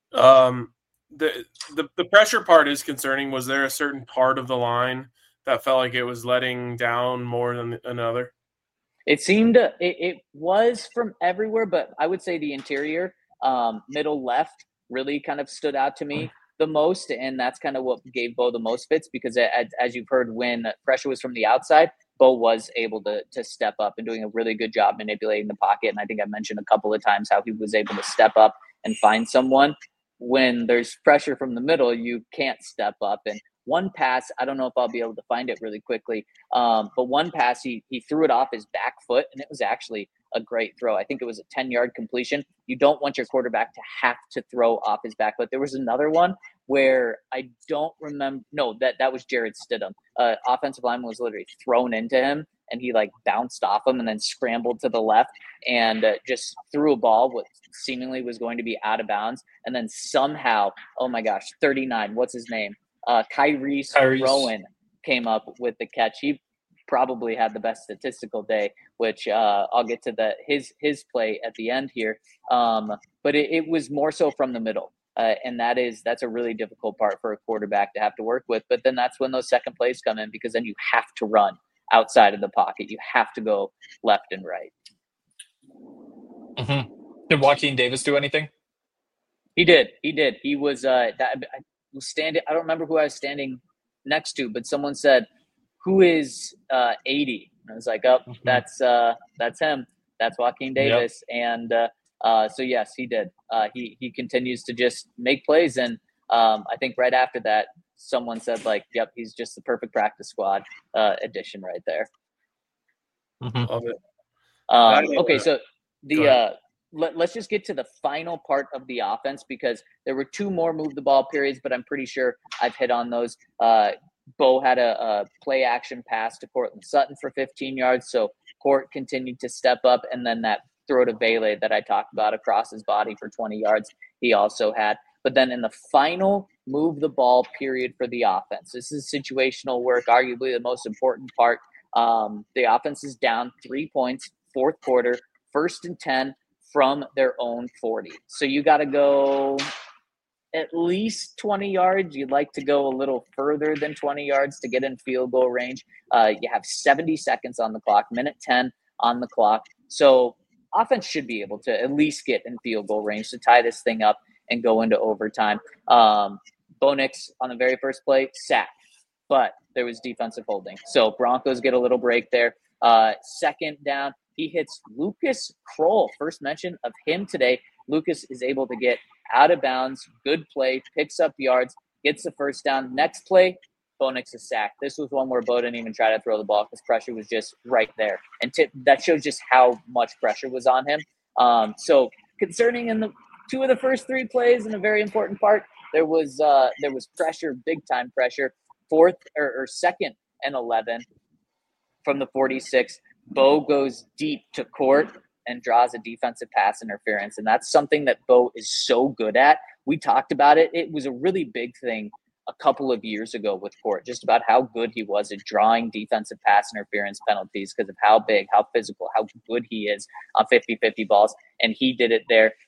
The pressure part is concerning. Was there a certain part of the line that felt like it was letting down more than another? It seemed it was from everywhere, but I would say the interior, middle left, really kind of stood out to me the most, and that's kind of what gave Bo the most fits because as you've heard, when pressure was from the outside, Bo was able to step up and doing a really good job manipulating the pocket. And I think I mentioned a couple of times how he was able to step up and find someone. When there's pressure from the middle, you can't step up. And one pass, I don't know if I'll be able to find it really quickly, but one pass, he threw it off his back foot, and it was actually a great throw. I think it was a 10-yard completion. You don't want your quarterback to have to throw off his back foot. There was another one where I don't remember. No, that was Jared Stidham. Offensive lineman was literally thrown into him, and he like bounced off him and then scrambled to the left and just threw a ball what seemingly was going to be out of bounds. And then somehow, oh my gosh, 39, what's his name? Kyrie Rowan came up with the catch. He probably had the best statistical day, which I'll get to his play at the end here. But it was more so from the middle. And that's a really difficult part for a quarterback to have to work with. But then that's when those second plays come in, because then you have to run outside of the pocket. You have to go left and right. Mm-hmm. Did Joaquin Davis do anything? He did. He was I was standing. I don't remember who I was standing next to, but someone said, "Who is 80?" And I was like, "Oh, that's him. That's Joaquin Davis." Yep. And so yes, he did. He continues to just make plays, and I think right after that, someone said like, "Yep, he's just the perfect practice squad addition right there." Mm-hmm. Love it. Okay, so let's just get to the final part of the offense, because there were two more move the ball periods, but I'm pretty sure I've hit on those. Bo had a play action pass to Courtland Sutton for 15 yards. So Court continued to step up. And then that throw to Bailey that I talked about across his body for 20 yards, he also had. But then in the final move the ball period for the offense, this is situational work, arguably the most important part. The offense is down 3 points, fourth quarter, 1st and 10 from their own 40. So you got to go at least 20 yards. You'd like to go a little further than 20 yards to get in field goal range. You have 70 seconds on the clock, minute 10 on the clock. So offense should be able to at least get in field goal range to tie this thing up and go into overtime. Bo Nix on the very first play, sacked, but there was defensive holding. So Broncos get a little break there. Second down, he hits Lucas Kroll. First mention of him today. Lucas is able to get out of bounds. Good play, picks up yards, gets the first down. Next play, Bo Nix is sacked. This was one where Bo didn't even try to throw the ball because pressure was just right there. And that shows just how much pressure was on him. So concerning in the two of the first 3 plays, and a very important part, there was pressure, big time pressure. Fourth or second and 11 from the 46. Bo goes deep to Court and draws a defensive pass interference. And that's something that Bo is so good at. We talked about it. It was a really big thing a couple of years ago with Court, just about how good he was at drawing defensive pass interference penalties because of how big, how physical, how good he is on 50-50 balls. And he did it there.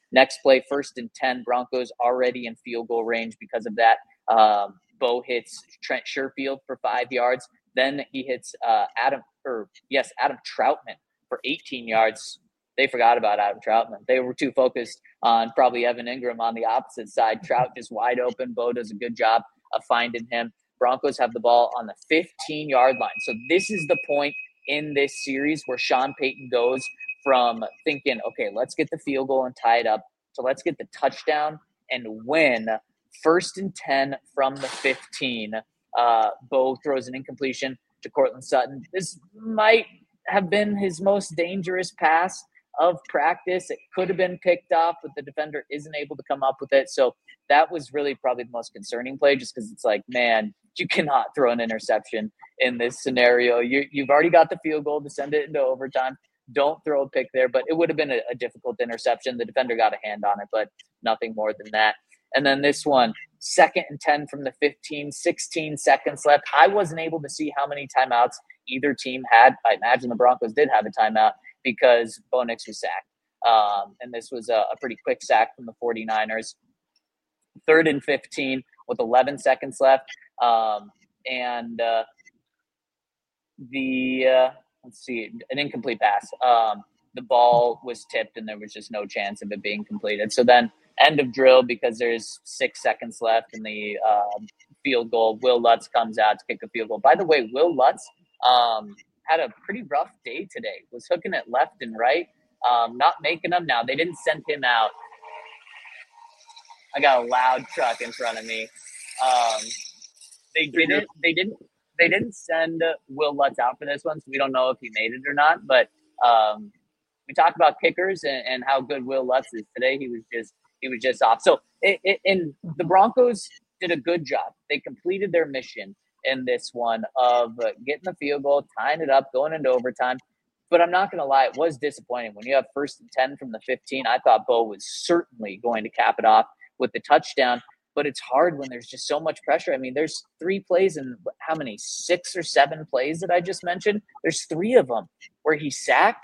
Next play, 1st and 10, Broncos already in field goal range because of that. Bo hits Trent Sherfield for 5 yards. Then he hits Adam Troutman for 18 yards. They forgot about Adam Troutman. They were too focused on probably Evan Ingram on the opposite side. Trout just wide open. Bo does a good job of finding him. Broncos have the ball on the 15-yard line. So this is the point in this series where Sean Payton goes from thinking, okay, let's get the field goal and tie it up, so let's get the touchdown and win. 1st and 10 from the 15. Bo throws an incompletion to Courtland Sutton. This might have been his most dangerous pass of practice. It could have been picked off, but the defender isn't able to come up with it. So that was really probably the most concerning play, just because it's like, man, you cannot throw an interception in this scenario. You've already got the field goal to send it into overtime. Don't throw a pick there, but it would have been a difficult interception. The defender got a hand on it, but nothing more than that. And then this one, 2nd and 10 from the 15, 16 seconds left. I wasn't able to see how many timeouts either team had. I imagine the Broncos did have a timeout because Bo Nix was sacked. And this was a pretty quick sack from the 49ers. 3rd and 15 with 11 seconds left. Let's see, an incomplete pass. The ball was tipped and there was just no chance of it being completed. So then end of drill because there's 6 seconds left in the field goal. Will Lutz comes out to kick a field goal. By the way, Will Lutz had a pretty rough day today. Was hooking it left and right, not making them. Now, they didn't send him out. I got a loud truck in front of me. They didn't send Will Lutz out for this one, so we don't know if he made it or not. But we talked about kickers and how good Will Lutz is today. He was just off. So and the Broncos did a good job. They completed their mission in this one of getting the field goal, tying it up, going into overtime. But I'm not going to lie, it was disappointing. When you have 1st and 10 from the 15, I thought Bo was certainly going to cap it off with the touchdown. But it's hard when there's just so much pressure. I mean, there's 3 plays and how many? 6 or 7 plays that I just mentioned. There's 3 of them where he's sacked.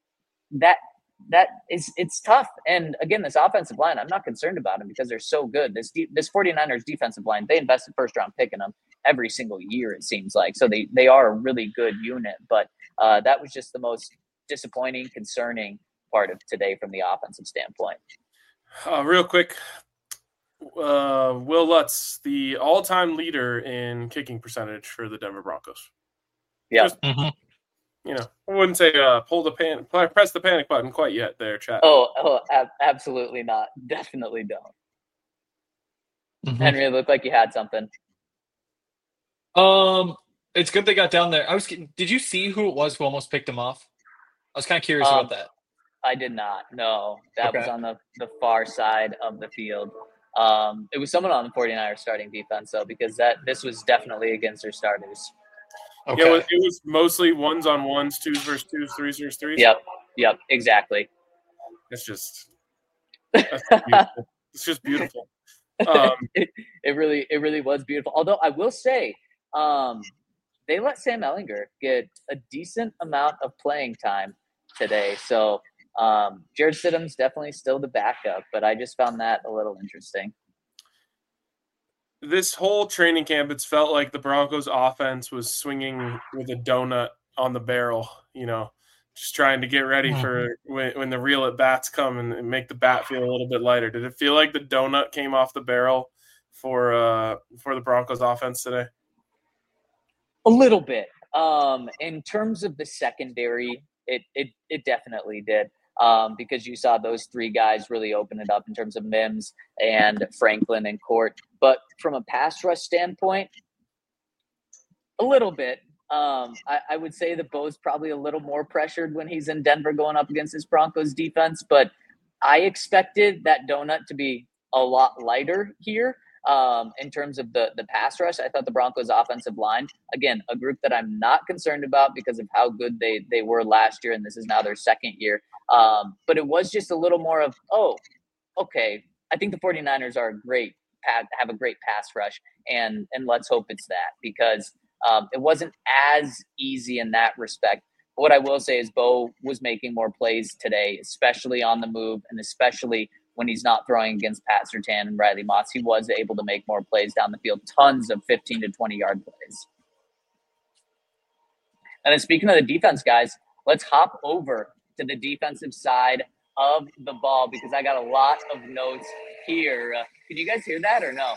It's tough. And again, this offensive line, I'm not concerned about them because they're so good. This 49ers defensive line, they invested 1st round pick in them every single year, it seems like. So they are a really good unit. But that was just the most disappointing, concerning part of today from the offensive standpoint. Real quick, Will Lutz, the all-time leader in kicking percentage for the Denver Broncos. Yeah. You know, I wouldn't say press the panic button quite yet there, chat. Absolutely not. Definitely don't. Mm-hmm. Henry, it looked like you had something. It's good they got down there. Did you see who it was who almost picked him off? I was kind of curious about that. I did not. No, that was on the far side of the field. It was someone on the 49ers starting defense, though, because this was definitely against their starters. Okay. Yeah, it was mostly 1s-on-1s, 2s versus 2s, 3s versus 3s. Yep, exactly. It's just beautiful. It's just beautiful. It really was beautiful. Although I will say, they let Sam Ehlinger get a decent amount of playing time today. So Jared Stidham's definitely still the backup, but I just found that a little interesting. This whole training camp, it's felt like the Broncos offense was swinging with a donut on the barrel, you know, just trying to get ready for when the real at-bats come and make the bat feel a little bit lighter. Did it feel like the donut came off the barrel for the Broncos offense today? A little bit. In terms of the secondary, it definitely did. Because you saw those 3 guys really open it up in terms of Mims and Franklin and Court. But from a pass rush standpoint, a little bit. I would say that Bo's probably a little more pressured when he's in Denver going up against this Broncos defense. But I expected that donut to be a lot lighter here. In terms of the pass rush, I thought the Broncos offensive line, again, a group that I'm not concerned about because of how good they were last year, and this is now their 2nd year. But it was just a little more of, okay, I think the 49ers have a great pass rush, and let's hope it's that, because it wasn't as easy in that respect. But what I will say is Bo was making more plays today, especially on the move and especially when he's not throwing against Pat Surtain and Riley Moss. He was able to make more plays down the field, tons of 15 to 20-yard plays. And then speaking of the defense, guys, let's hop over to the defensive side of the ball because I got a lot of notes here. Can you guys hear that or no?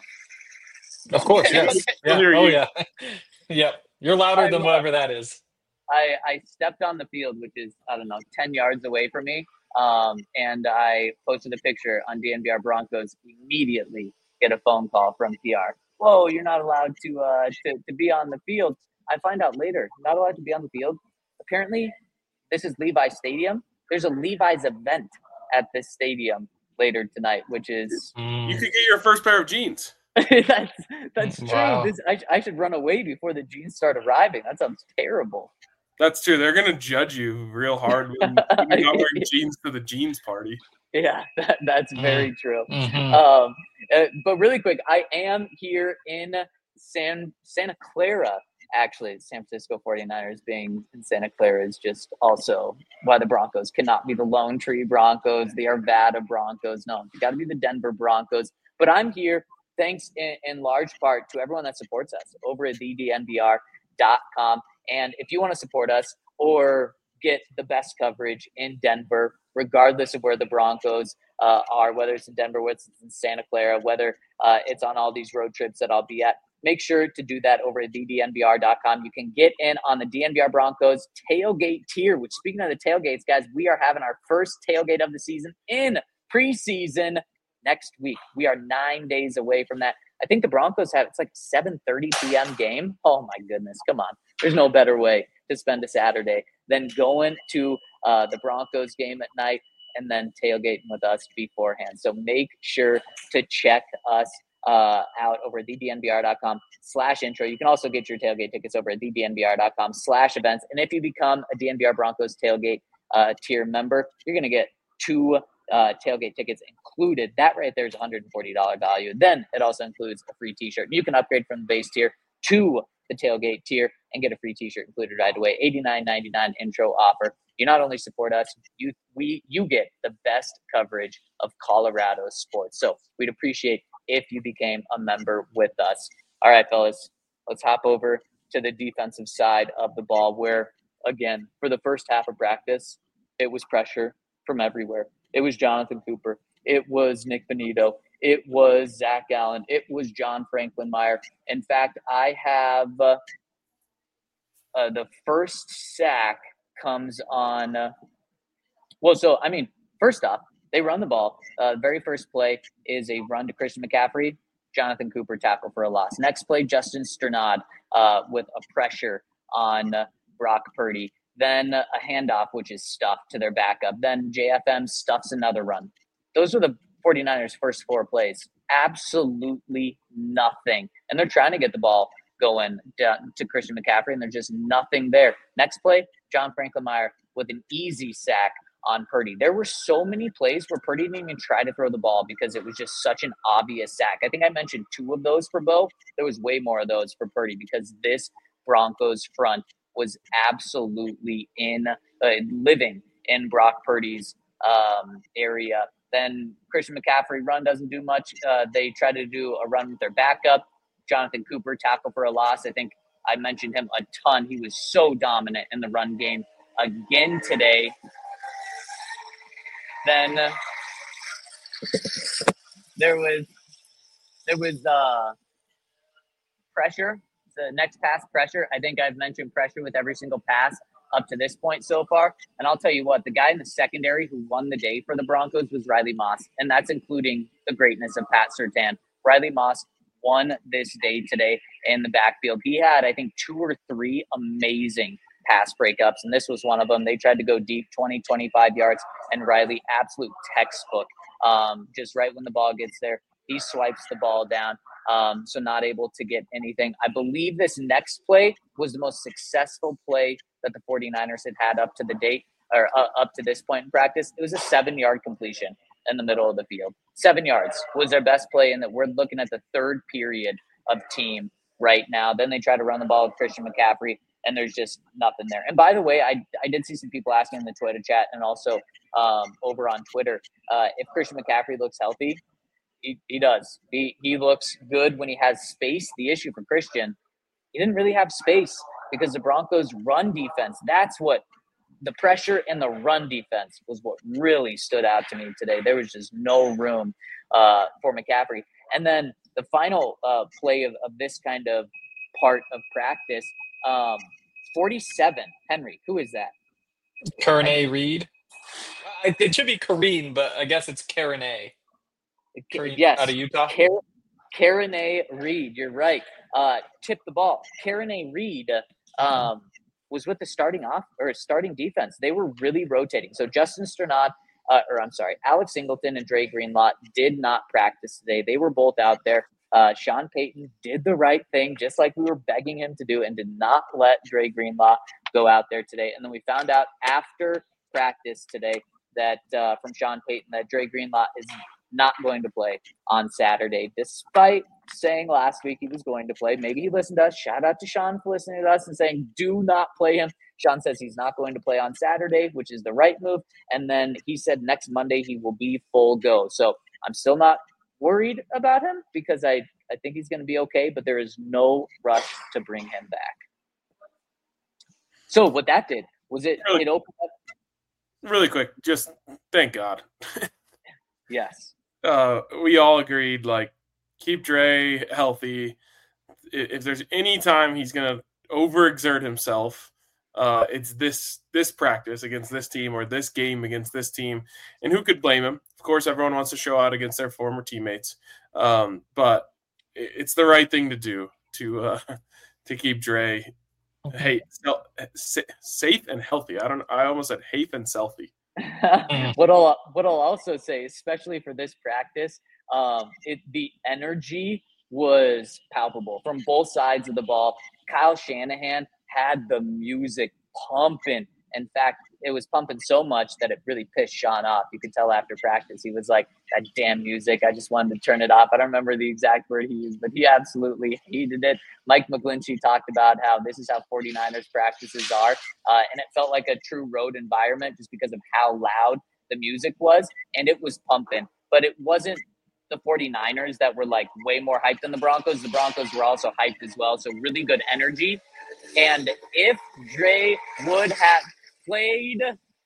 Of course, yes. Yeah. Oh, yeah. Yep. You're louder than whatever that is. I stepped on the field, which is, 10 yards away from me. And I posted a picture on DNVR Broncos, immediately get a phone call from PR. Whoa, you're not allowed to be on the field. I find out later, not allowed to be on the field. Apparently, this is Levi's Stadium. There's a Levi's event at this stadium later tonight, which is... You could get your first pair of jeans. That's true. Wow. I should run away before the jeans start arriving. That sounds terrible. That's true. They're going to judge you real hard when you're not wearing jeans to the jeans party. Yeah, that's very true. Mm-hmm. But really quick, I am here in Santa Clara. Actually, San Francisco 49ers being in Santa Clara is just also why the Broncos cannot be the Lone Tree Broncos, the Arvada Broncos. No, you got to be the Denver Broncos. But I'm here thanks in large part to everyone that supports us over at thednvr.com. And if you want to support us or get the best coverage in Denver, regardless of where the Broncos are, whether it's in Denver, whether it's in Santa Clara, whether it's on all these road trips that I'll be at, make sure to do that over at thednvr.com. You can get in on the DNVR Broncos tailgate tier, which, speaking of the tailgates, guys, we are having our first tailgate of the season in preseason next week. We are 9 days away from that. I think the Broncos have, it's like 7:30 p.m. game. Oh, my goodness. Come on. There's no better way to spend a Saturday than going to the Broncos game at night and then tailgating with us beforehand. So make sure to check us out over at thednvr.com/intro. You can also get your tailgate tickets over at thednvr.com/events. And if you become a DNVR Broncos tailgate tier member, you're going to get 2 tailgate tickets included. That right there is $140 value. Then it also includes a free t-shirt. You can upgrade from the base tier to the tailgate tier and get a free t-shirt included right away. $89.99 intro offer. You not only support us, you get the best coverage of Colorado sports. So we'd appreciate if you became a member with us. All right, fellas, let's hop over to the defensive side of the ball where, again, for the first half of practice, it was pressure from everywhere. It was Jonathan Cooper. It was Nick Benito. It was Zach Allen. It was John Franklin Meyer. In fact, I have the first sack comes on first off, they run the ball. Very first play is a run to Christian McCaffrey. Jonathan Cooper tackle for a loss. Next play, Justin Strnad with a pressure on Brock Purdy. Then a handoff, which is stuffed to their backup. Then JFM stuffs another run. Those were the 49ers' first 4 plays. Absolutely nothing. And they're trying to get the ball going to Christian McCaffrey, and there's just nothing there. Next play, John Franklin Meyer with an easy sack on Purdy. There were so many plays where Purdy didn't even try to throw the ball because it was just such an obvious sack. I think I mentioned 2 of those for Bo. There was way more of those for Purdy because this Broncos front was absolutely living in Brock Purdy's area. Then Christian McCaffrey run doesn't do much. They try to do a run with their backup. Jonathan Cooper tackle for a loss. I think I mentioned him a ton. He was so dominant in the run game again today. Then there was pressure. The next pass pressure. I think I've mentioned pressure with every single pass up to this point so far. And I'll tell you what, the guy in the secondary who won the day for the Broncos was Riley Moss. And that's including the greatness of Pat Surtain. Riley Moss won this day today in the backfield. He had, I think, 2 or 3 amazing pass breakups. And this was one of them. They tried to go deep, 20, 25 yards. And Riley, absolute textbook. Just right when the ball gets there, he swipes the ball down. So not able to get anything. I believe this next play was the most successful play that the 49ers had up to the date or up to this point in practice. It was a 7-yard completion in the middle of the field. 7 yards was their best play, and that we're looking at the 3rd period of team right now. Then they try to run the ball with Christian McCaffrey. and there's just nothing there. And by the way, I did see some people asking in the Twitter chat and also over on Twitter if Christian McCaffrey looks healthy. He does. He looks good when he has space. The issue for Christian, he didn't really have space because the Broncos' run defense, that's what the pressure and the run defense was what really stood out to me today. There was just no room for McCaffrey. And then the final play of this kind of part of practice, 47, Henry, who is that? Karen Reed. It should be Kareen, but I guess it's Karen A. Yes. Out of Utah. Karen Reed, you're right. Tipped the ball. Karen Reed was with the starting defense. They were really rotating. So Justin Strnad, Alex Singleton and Dre Greenlaw did not practice today. They were both out there. Sean Payton did the right thing, just like we were begging him to do, and did not let Dre Greenlaw go out there today. And then we found out after practice today that from Sean Payton that Dre Greenlaw is not going to play on Saturday, despite saying last week he was going to play. Maybe he listened to us. Shout out to Sean for listening to us and saying, do not play him. Sean says he's not going to play on Saturday, which is the right move. And then he said next Monday he will be full go. So I'm still not worried about him because I think he's going to be okay, but there is no rush to bring him back. So what that did was it opened up. Really quick, just thank God. Yes. We all agreed, like, keep Dre healthy. If there's any time he's going to overexert himself, it's this practice against this team or this game against this team. And who could blame him? Of course, everyone wants to show out against their former teammates. But it's the right thing to do to keep Dre safe and healthy. I almost said hafe and selfie. What I'll also say, especially for this practice, the energy was palpable from both sides of the ball. Kyle Shanahan had the music pumping. In fact, it was pumping so much that it really pissed Sean off. You could tell after practice. He was like, that damn music, I just wanted to turn it off. I don't remember the exact word he used, but he absolutely hated it. Mike McGlinchey talked about how this is how 49ers practices are. And it felt like a true road environment just because of how loud the music was. And it was pumping. But it wasn't the 49ers that were like way more hyped than the Broncos. The Broncos were also hyped as well. So really good energy. And if Dre would have played,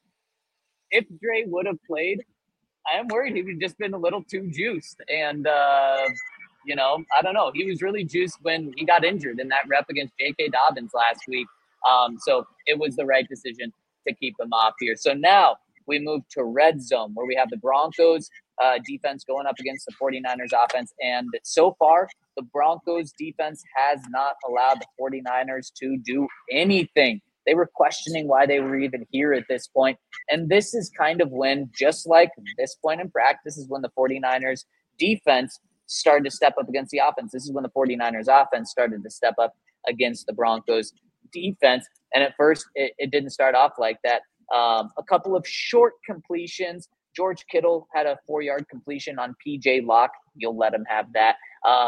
I am worried he would have just been a little too juiced. And, I don't know. He was really juiced when he got injured in that rep against J.K. Dobbins last week. So it was the right decision to keep him off here. So now we move to red zone where we have the Broncos defense going up against the 49ers offense. And so far, the Broncos defense has not allowed the 49ers to do anything. They were questioning why they were even here at this point. And this is kind of when, just like this point in practice, is when the 49ers defense started to step up against the offense. This is when the 49ers offense started to step up against the Broncos defense. And at first, it didn't start off like that. A couple of short completions. George Kittle had a 4-yard completion on P.J. Locke. You'll let him have that.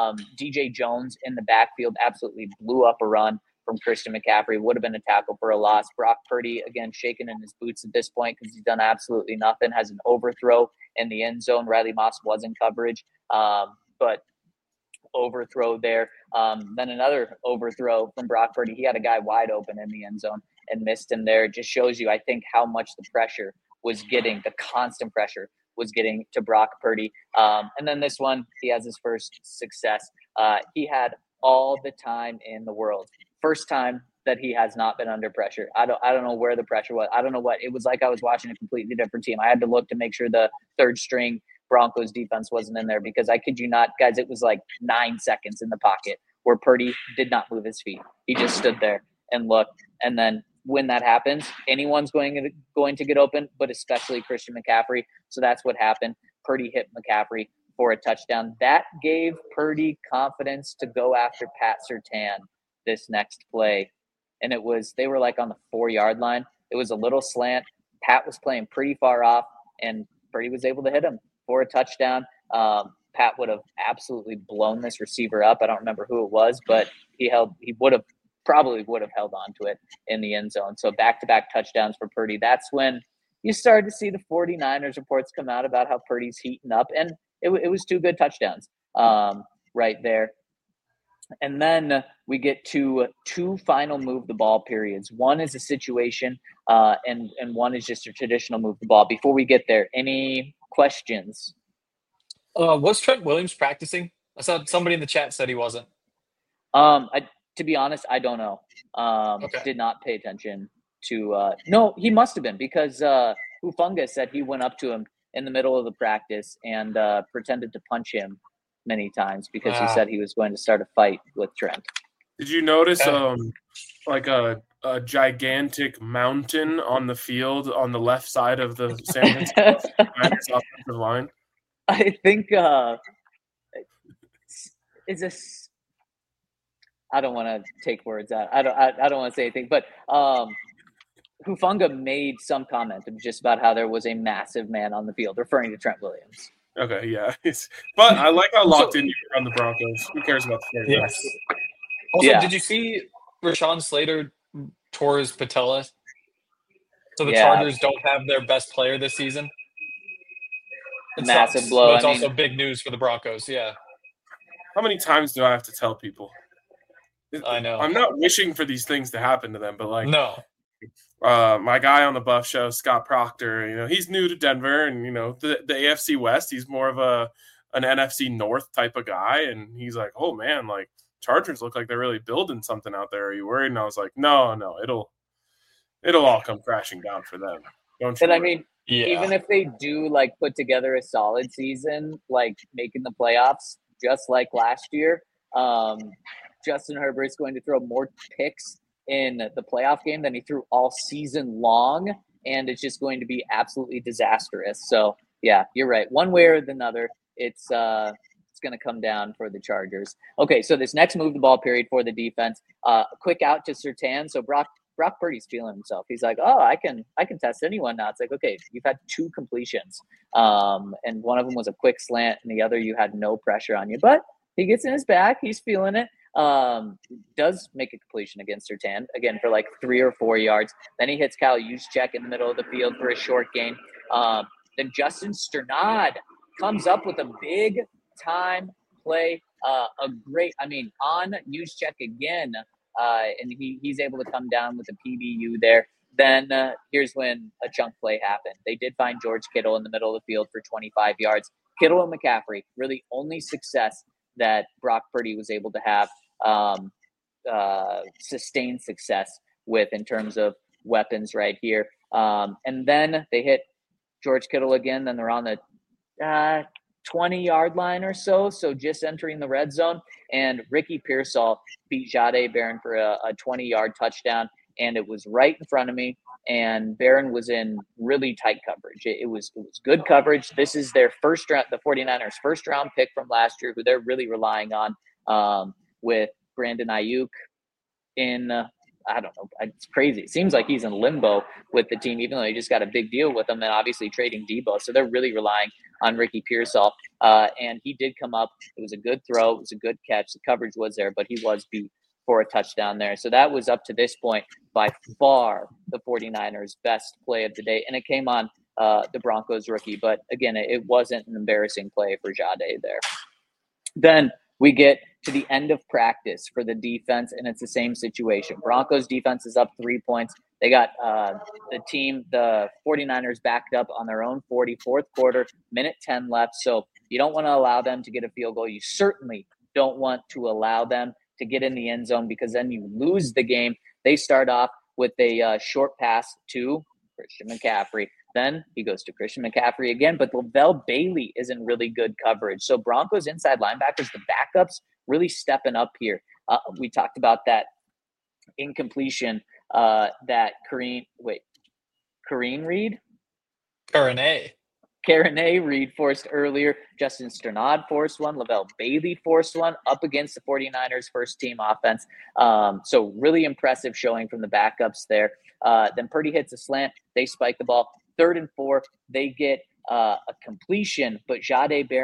DJ Jones in the backfield absolutely blew up a run from Christian McCaffrey. Would have been a tackle for a loss. Brock Purdy, again, shaking in his boots at this point because he's done absolutely nothing. Has an overthrow in the end zone. Riley Moss was in coverage, but overthrow there. Then another overthrow from Brock Purdy. He had a guy wide open in the end zone and missed him there. It just shows you, I think, how much the pressure was getting, the constant pressure was getting to Brock Purdy. And then this one, he has his first success. He had all the time in the world. First time that he has not been under pressure. I don't know where the pressure was. I don't know what. It was like I was watching a completely different team. I had to look to make sure the third string Broncos defense wasn't in there because I kid you not, guys, it was like 9 seconds in the pocket where Purdy did not move his feet. He just stood there and looked. And then when that happens, anyone's going to get open, but especially Christian McCaffrey. So that's what happened. Purdy hit McCaffrey for a touchdown. That gave Purdy confidence to go after Pat Surtain this next play. And they were like on the 4-yard line. It was a little slant. Pat was playing pretty far off, and Purdy was able to hit him for a touchdown. Pat would have absolutely blown this receiver up. I don't remember who it was, but he would have probably would have held on to it in the end zone. So back-to-back touchdowns for Purdy. That's when you started to see the 49ers reports come out about how Purdy's heating up, and it was 2 good touchdowns right there. And then we get to 2 final move the ball periods. One is a situation, and one is just a traditional move the ball. Before we get there, any questions? Was Trent Williams practicing? I saw somebody in the chat said he wasn't. To be honest, I don't know. Okay. Did not pay attention to. No, he must have been, because Hufanga said he went up to him in the middle of the practice and pretended to punch him many times because he said he was going to start a fight with Trent. Did you notice like a gigantic mountain on the field on the left side of the San Francisco offensive line? I think is this. I don't want to take words out. I don't want to say anything, but Hufanga made some comment just about how there was a massive man on the field, referring to Trent Williams. Okay, yeah. But I like how locked in you are on the Broncos. Who cares about the 49ers? Yes. Also, did you see Rashawn Slater tore his patella? So the Chargers don't have their best player this season? Massive blow. But it's also big news for the Broncos, yeah. How many times do I have to tell people? I know. I'm not wishing for these things to happen to them, but like no. My guy on the Buff Show, Scott Proctor, he's new to Denver, and the AFC West. He's more of an NFC North type of guy, and he's like, "Oh man, like Chargers look like they're really building something out there. Are you worried?" And I was like, "No, it'll all come crashing down for them." Don't you? But I mean, even if they do like put together a solid season, like making the playoffs, just like last year, Justin Herbert's going to throw more picks in the playoff game than he threw all season long, and it's just going to be absolutely disastrous. So yeah, you're right. One way or another, it's going to come down for the Chargers. Okay, so this next move the ball period for the defense, quick out to Surtain. So Brock Purdy's feeling himself. He's like, oh, I can test anyone now. It's like, okay, you've had 2 completions, and one of them was a quick slant, and the other you had no pressure on you. But he gets in his back. He's feeling it. Does make a completion against Surtain, again, for like 3 or 4 yards. Then he hits Kyle Juszczyk in the middle of the field for a short gain. Then Justin Strnad comes up with a big-time play. On Juszczyk again, and he's able to come down with a PBU there. Then here's when a chunk play happened. They did find George Kittle in the middle of the field for 25 yards. Kittle and McCaffrey, really only success that Brock Purdy was able to have sustained success with in terms of weapons right here. And then they hit George Kittle again. Then they're on the 20-yard line or so, just entering the red zone. And Ricky Pearsall beat Jahdae Barron for a 20-yard touchdown, and it was right in front of me. And Barron was in really tight coverage. It was good coverage. This is their first round, the 49ers' first-round pick from last year, who they're really relying on with Brandon Ayuk in I don't know. It's crazy. It seems like he's in limbo with the team, even though he just got a big deal with him and obviously trading Debo. So they're really relying on Ricky Pearsall. And he did come up. It was a good throw. It was a good catch. The coverage was there, but he was beat for a touchdown there. So that was up to this point by far the 49ers' best play of the day. And it came on the Broncos rookie. But again, it wasn't an embarrassing play for Jahdae there. Then we get to the end of practice for the defense, and it's the same situation. Broncos defense is up 3 points. They got the 49ers backed up on their own 40, fourth quarter, minute 10 left. So you don't want to allow them to get a field goal. You certainly don't want to allow them to get in the end zone because then you lose the game. They start off with a short pass to Christian McCaffrey. Then he goes to Christian McCaffrey again, but Lavelle Bailey is in really good coverage. So Broncos inside linebackers, the backups, really stepping up here. We talked about that incompletion that Kareem Reed? Kareem Reed forced earlier. Justin Strnad forced one. Lavelle Bailey forced one up against the 49ers first-team offense. So really impressive showing from the backups there. Then Purdy hits a slant. They spike the ball. 3rd and 4, they get a completion, but Jahdae Barron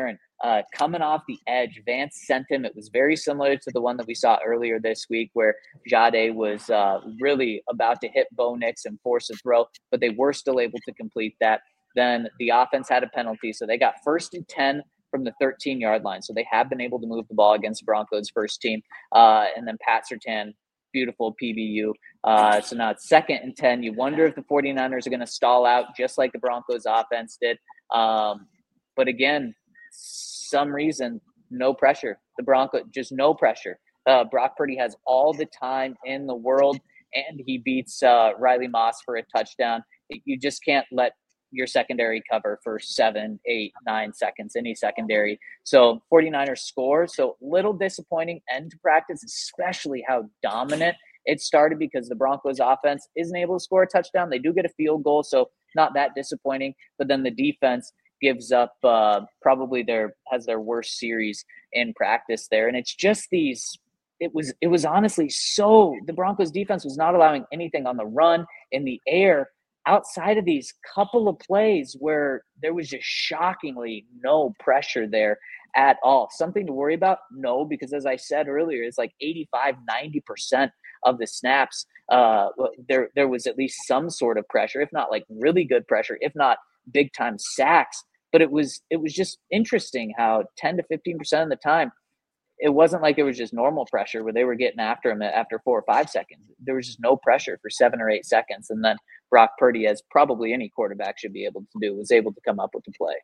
coming off the edge. Vance sent him. It was very similar to the one that we saw earlier this week where Jade was really about to hit Bo Nix and force a throw, but they were still able to complete that. Then the offense had a penalty, so they got 1st and 10 from the 13-yard line. So they have been able to move the ball against Broncos' first team. And then Pat Surtain, beautiful PBU. So now it's 2nd and 10. You wonder if the 49ers are going to stall out just like the Broncos offense did. But again, some reason, no pressure. The Broncos, just no pressure. Brock Purdy has all the time in the world, and he beats Riley Moss for a touchdown. You just can't let your secondary cover for 7, 8, 9 seconds, any secondary. So 49ers score. So little disappointing end to practice, especially how dominant it started because the Broncos offense isn't able to score a touchdown. They do get a field goal, so not that disappointing. But then the defense gives up probably has their worst series in practice there. And it's just it was honestly so the Broncos defense was not allowing anything on the run, in the air, outside of these couple of plays where there was just shockingly no pressure there at all. Something to worry about? No, because as I said earlier, it's like 85-90% of the snaps, there was at least some sort of pressure, if not like really good pressure, if not big time sacks. But it was just interesting how 10 to 15% of the time, it wasn't like it was just normal pressure where they were getting after him after 4 or 5 seconds. There was just no pressure for 7 or 8 seconds. And then Brock Purdy, as probably any quarterback should be able to do, was able to come up with the play.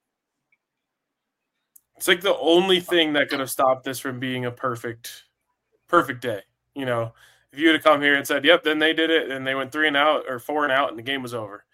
It's like the only thing that could have stopped this from being a perfect day. You know, if you would have come here and said, yep, then they did it, and they went 3 and out or 4 and out, and the game was over.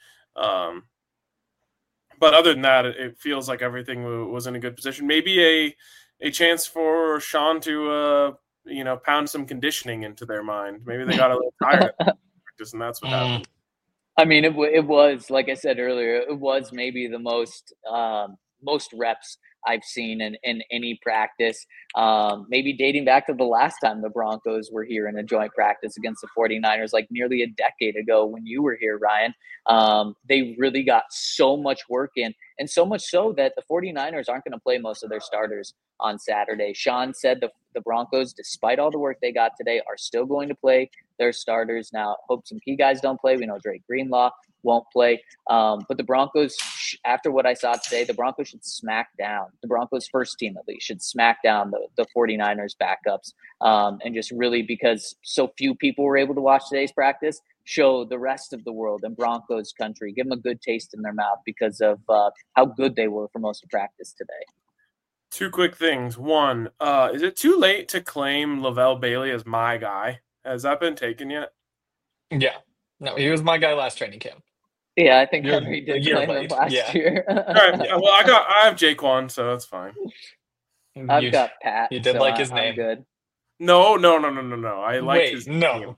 But other than that, it feels like everything was in a good position. Maybe a chance for Sean to, pound some conditioning into their mind. Maybe they got a little tired of practice, and that's what happened. I mean, it was, like I said earlier, it was maybe the most reps I've seen in any practice, maybe dating back to the last time the Broncos were here in a joint practice against the 49ers, like nearly a decade ago when you were here, Ryan. They really got so much work in, and so much so that the 49ers aren't going to play most of their starters on Saturday. Sean said the Broncos, despite all the work they got today, are still going to play their starters. Now, hope some key guys don't play. We know Drake Greenlaw won't play. But the Broncos, after what I saw today, the Broncos should smack down. The Broncos first team, at least, should smack down the 49ers backups. And just really, because so few people were able to watch today's practice, show the rest of the world and Broncos country, give them a good taste in their mouth because of how good they were for most of practice today. 2 quick things. One, is it too late to claim Lavelle Bailey as my guy? Has that been taken yet? Yeah. No, he was my guy last training camp. Yeah, I think Henry did claim him last year. All right. Yeah, well, I have Jaquan, so that's fine. I've got Pat. You did so like his name. Good. No. I like his name.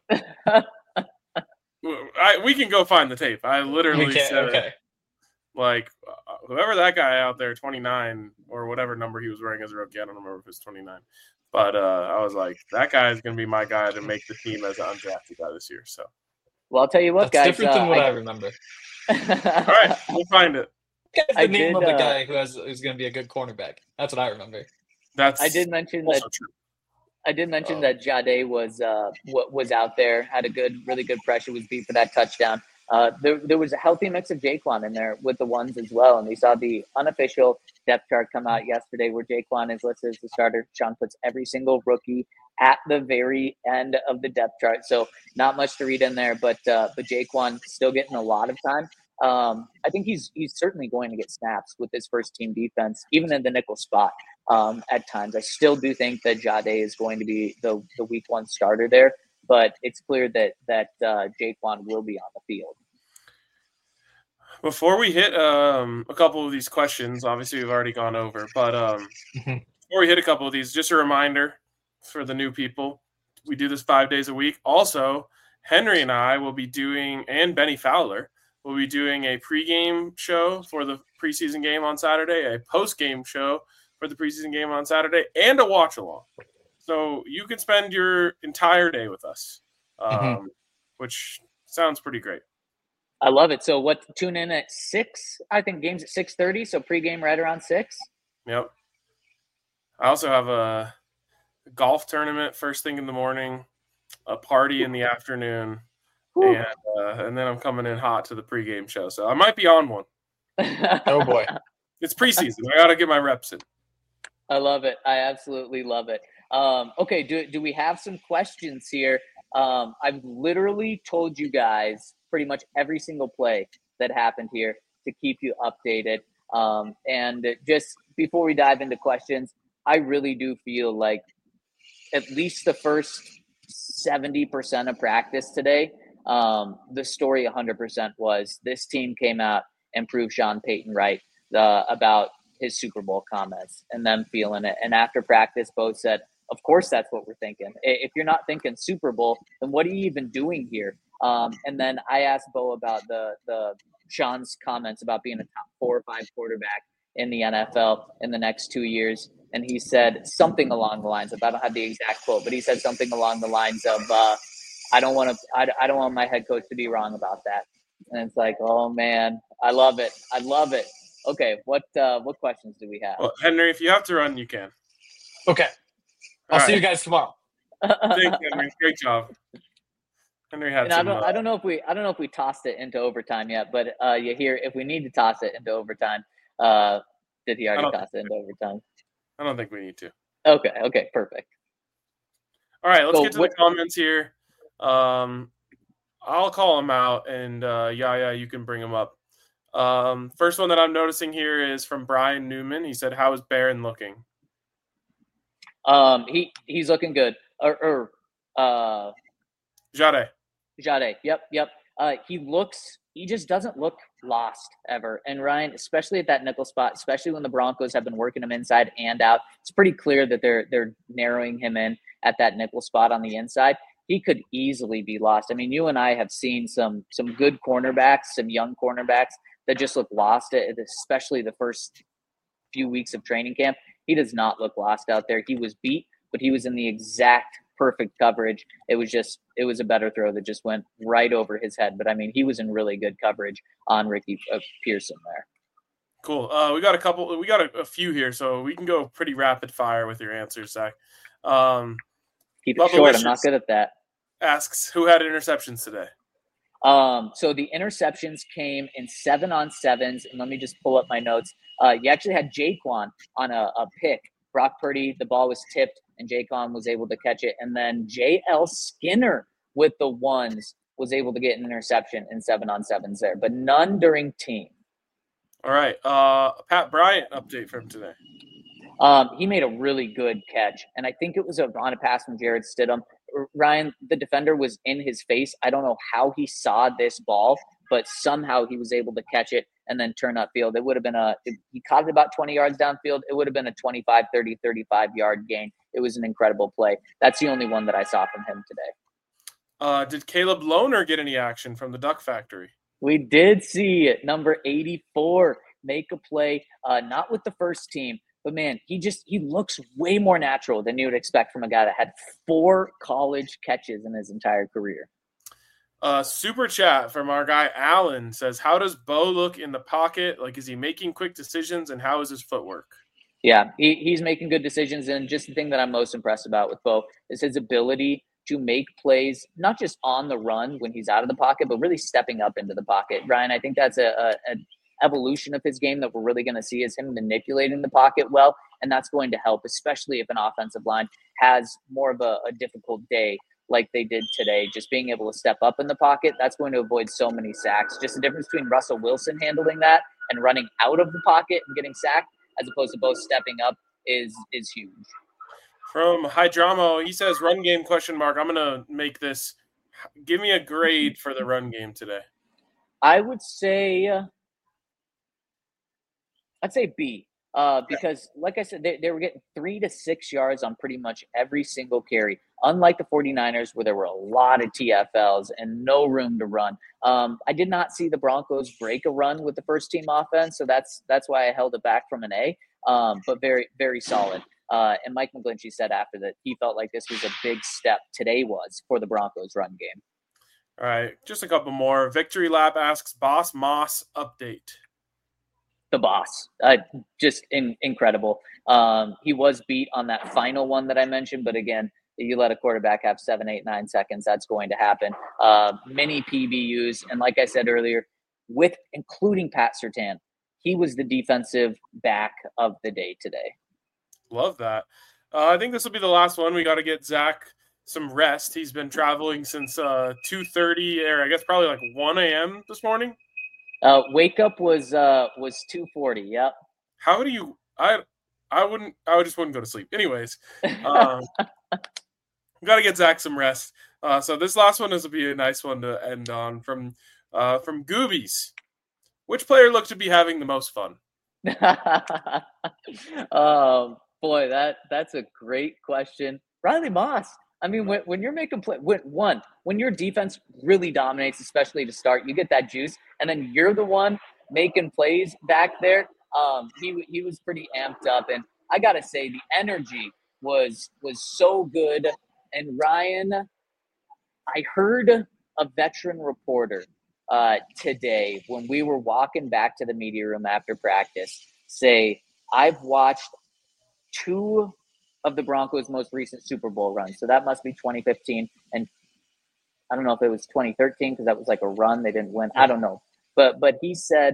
We can go find the tape. I literally said, okay. Like, whoever that guy out there, 29 or whatever number he was wearing as a rookie, I don't remember if it's 29. But I was like, that guy is going to be my guy to make the team as an undrafted guy this year. So, well, I'll tell you what, that's guys. Different than what I remember. All right, we'll find it. That's the name of the guy who's going to be a good cornerback. That's what I remember. I did mention that. True. I did mention that Jade was out there, had really good pressure, was beat for that touchdown. There was a healthy mix of Jaquan in there with the ones as well. And we saw the unofficial depth chart come out yesterday where Jaquan is listed as the starter. Sean puts every single rookie at the very end of the depth chart. So not much to read in there, but Jaquan still getting a lot of time. I think he's certainly going to get snaps with his first team defense, even in the nickel spot at times. I still do think that Jade is going to be the week 1 starter there, but it's clear that Jaquan will be on the field. Before we hit a couple of these questions, obviously we've already gone over, but before we hit a couple of these, just a reminder for the new people, we do this 5 days a week. Also, Henry and I will be doing, and Benny Fowler, will be doing a pregame show for the preseason game on Saturday, a postgame show for the preseason game on Saturday, and a watch-along. So you can spend your entire day with us, which sounds pretty great. I love it. So tune in at 6, I think game's at 6:30, so pregame right around 6. Yep. I also have a golf tournament first thing in the morning, a party in the afternoon, and then I'm coming in hot to the pregame show. So I might be on one. Oh boy. It's preseason. I got to get my reps in. I love it. I absolutely love it. Okay, do we have some questions here? I've literally told you guys pretty much every single play that happened here to keep you updated. And just before we dive into questions, I really do feel like at least the first 70% of practice today, the story 100% was this team came out and proved Sean Payton right about his Super Bowl comments and them feeling it. And after practice, Bo said, of course, that's what we're thinking. If you're not thinking Super Bowl, then what are you even doing here? And then I asked Bo about the Sean's comments about being a top 4 or 5 quarterback in the NFL in the next 2 years. And he said something along the lines of, I don't have the exact quote, but he said something along the lines of, I don't want my head coach to be wrong about that. And it's like, oh man, I love it. I love it. Okay. What questions do we have? Well, Henry, if you have to run, you can. Okay. I'll see you guys tomorrow. Thanks, Henry. Great job. Henry had some. I don't know if we tossed it into overtime yet, but you hear if we need to toss it into overtime. Did he already toss it into overtime? I don't think we need to. Okay, perfect. All right, let's get to the comments here. I'll call them out, and you can bring them up. First one that I'm noticing here is from Brian Newman. He said, "How is Barron looking?" He's looking good. Jade. Yep. He just doesn't look lost ever. And Ryan, especially at that nickel spot, especially when the Broncos have been working him inside and out, it's pretty clear that they're narrowing him in at that nickel spot on the inside. He could easily be lost. I mean, you and I have seen some good cornerbacks, some young cornerbacks that just look lost, especially the first few weeks of training camp. He does not look lost out there. He was beat, but he was in the exact perfect coverage. It was a better throw that just went right over his head. But I mean, he was in really good coverage on Ricky Pearson there. Cool. We got a few here, so we can go pretty rapid fire with your answers, Zach. Keep it short. I'm not good at that. Asks, who had interceptions today? So the interceptions came in 7-on-7s, and let me just pull up my notes. You actually had Jaquan on a pick. Brock Purdy, the ball was tipped, and Jaquan was able to catch it. And then J.L. Skinner with the ones was able to get an interception in 7-on-7s there, but none during team. All right. Pat Bryant update from today. He made a really good catch, and I think it was on a pass from Jarrett Stidham. Ryan, the defender was in his face. I don't know how he saw this ball, but somehow he was able to catch it and then turn upfield. It would have been he caught it about 20 yards downfield. It would have been a 25, 30, 35-yard gain. It was an incredible play. That's the only one that I saw from him today. Did Caleb Lohner get any action from the Duck Factory? We did see it. Number 84 make a play, not with the first team, but man, he looks way more natural than you would expect from a guy that had 4 college catches in his entire career. Super chat from our guy Alan says, how does Bo look in the pocket? Like, is he making quick decisions, and how is his footwork? Yeah, he's making good decisions, and just the thing that I'm most impressed about with Bo is his ability to make plays, not just on the run when he's out of the pocket, but really stepping up into the pocket. Ryan, I think that's an evolution of his game that we're really going to see is him manipulating the pocket well, and that's going to help, especially if an offensive line has more of a difficult day like they did today. Just being able to step up in the pocket, that's going to avoid so many sacks. Just the difference between Russell Wilson handling that and running out of the pocket and getting sacked as opposed to both stepping up is huge. From Hydramo, he says, run game ? I'm going to make this. Give me a grade for the run game today. I would say I'd say B, because like I said, they were getting 3 to 6 yards on pretty much every single carry, unlike the 49ers where there were a lot of TFLs and no room to run. I did not see the Broncos break a run with the first team offense, so that's why I held it back from an A, but very, very solid. And Mike McGlinchey said after that he felt like this was a big step today was for the Broncos run game. All right, just a couple more. Victory Lap asks, Boss Moss update. the boss. Just incredible. He was beat on that final one that I mentioned, but again, you let a quarterback have 7, 8, 9 seconds, that's going to happen. Many PBUs, and like I said earlier, with including Pat Surtain, he was the defensive back of the day today. Love that. I think this will be the last one. We got to get Zach some rest. He's been traveling since 2:30, or I guess probably like 1 a.m. this morning. Wake up was 2:40. Yep. How do you? I just wouldn't go to sleep. Anyways, got to get Zach some rest. So this last one will be a nice one to end on from Goobies. Which player looked to be having the most fun? Boy, that's a great question. Riley Moss. I mean, when you're making play, when your defense really dominates, especially to start, you get that juice, and then you're the one making plays back there. He was pretty amped up, and I gotta say the energy was so good. And Ryan, I heard a veteran reporter today when we were walking back to the media room after practice say, I've watched 2 of the Broncos' most recent Super Bowl runs. So that must be 2015. And I don't know if it was 2013 because that was like a run. They didn't win. I don't know. But he said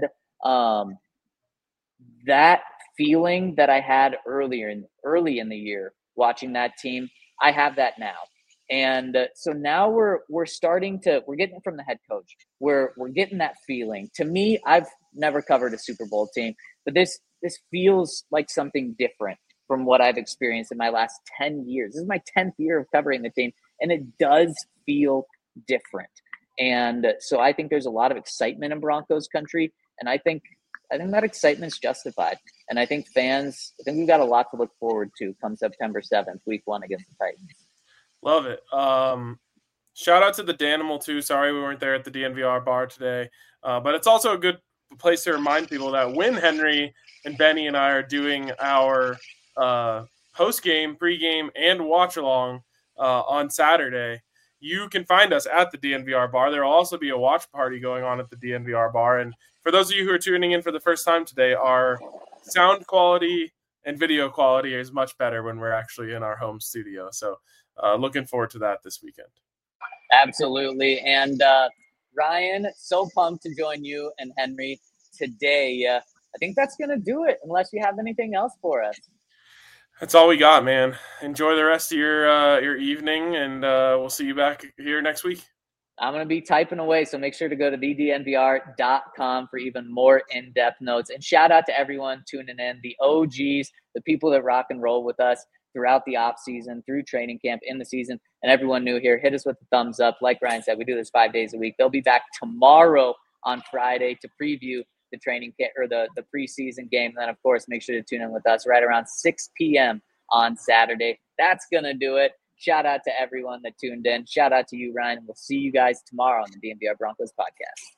that feeling that I had early in the year watching that team, I have that now. And so now we're getting it from the head coach. We're getting that feeling. To me, I've never covered a Super Bowl team, but this feels like something different from what I've experienced in my last 10 years. This is my 10th year of covering the team, and it does feel different. And so I think there's a lot of excitement in Broncos country, and I think that excitement's justified. And I think we've got a lot to look forward to come September 7th, week 1 against the Titans. Love it. Shout out to the Danimal too. Sorry we weren't there at the DNVR bar today. But it's also a good place to remind people that when Henry and Benny and I are doing our post-game, pre-game, and watch-along on Saturday, you can find us at the DNVR bar. There will also be a watch party going on at the DNVR bar. And for those of you who are tuning in for the first time today, our sound quality and video quality is much better when we're actually in our home studio. So looking forward to that this weekend. Absolutely. And Ryan, so pumped to join you and Henry today. I think that's going to do it unless you have anything else for us. That's all we got, man. Enjoy the rest of your evening, and we'll see you back here next week. I'm going to be typing away, so make sure to go to thednvr.com for even more in-depth notes. And shout out to everyone tuning in, the OGs, the people that rock and roll with us throughout the off season, through training camp, in the season, and everyone new here. Hit us with the thumbs up. Like Ryan said, we do this 5 days a week. They'll be back tomorrow on Friday to preview the training camp or the preseason game. And then, of course, make sure to tune in with us right around 6 p.m. on Saturday. That's going to do it. Shout out to everyone that tuned in. Shout out to you, Ryan. We'll see you guys tomorrow on the DNVR Broncos podcast.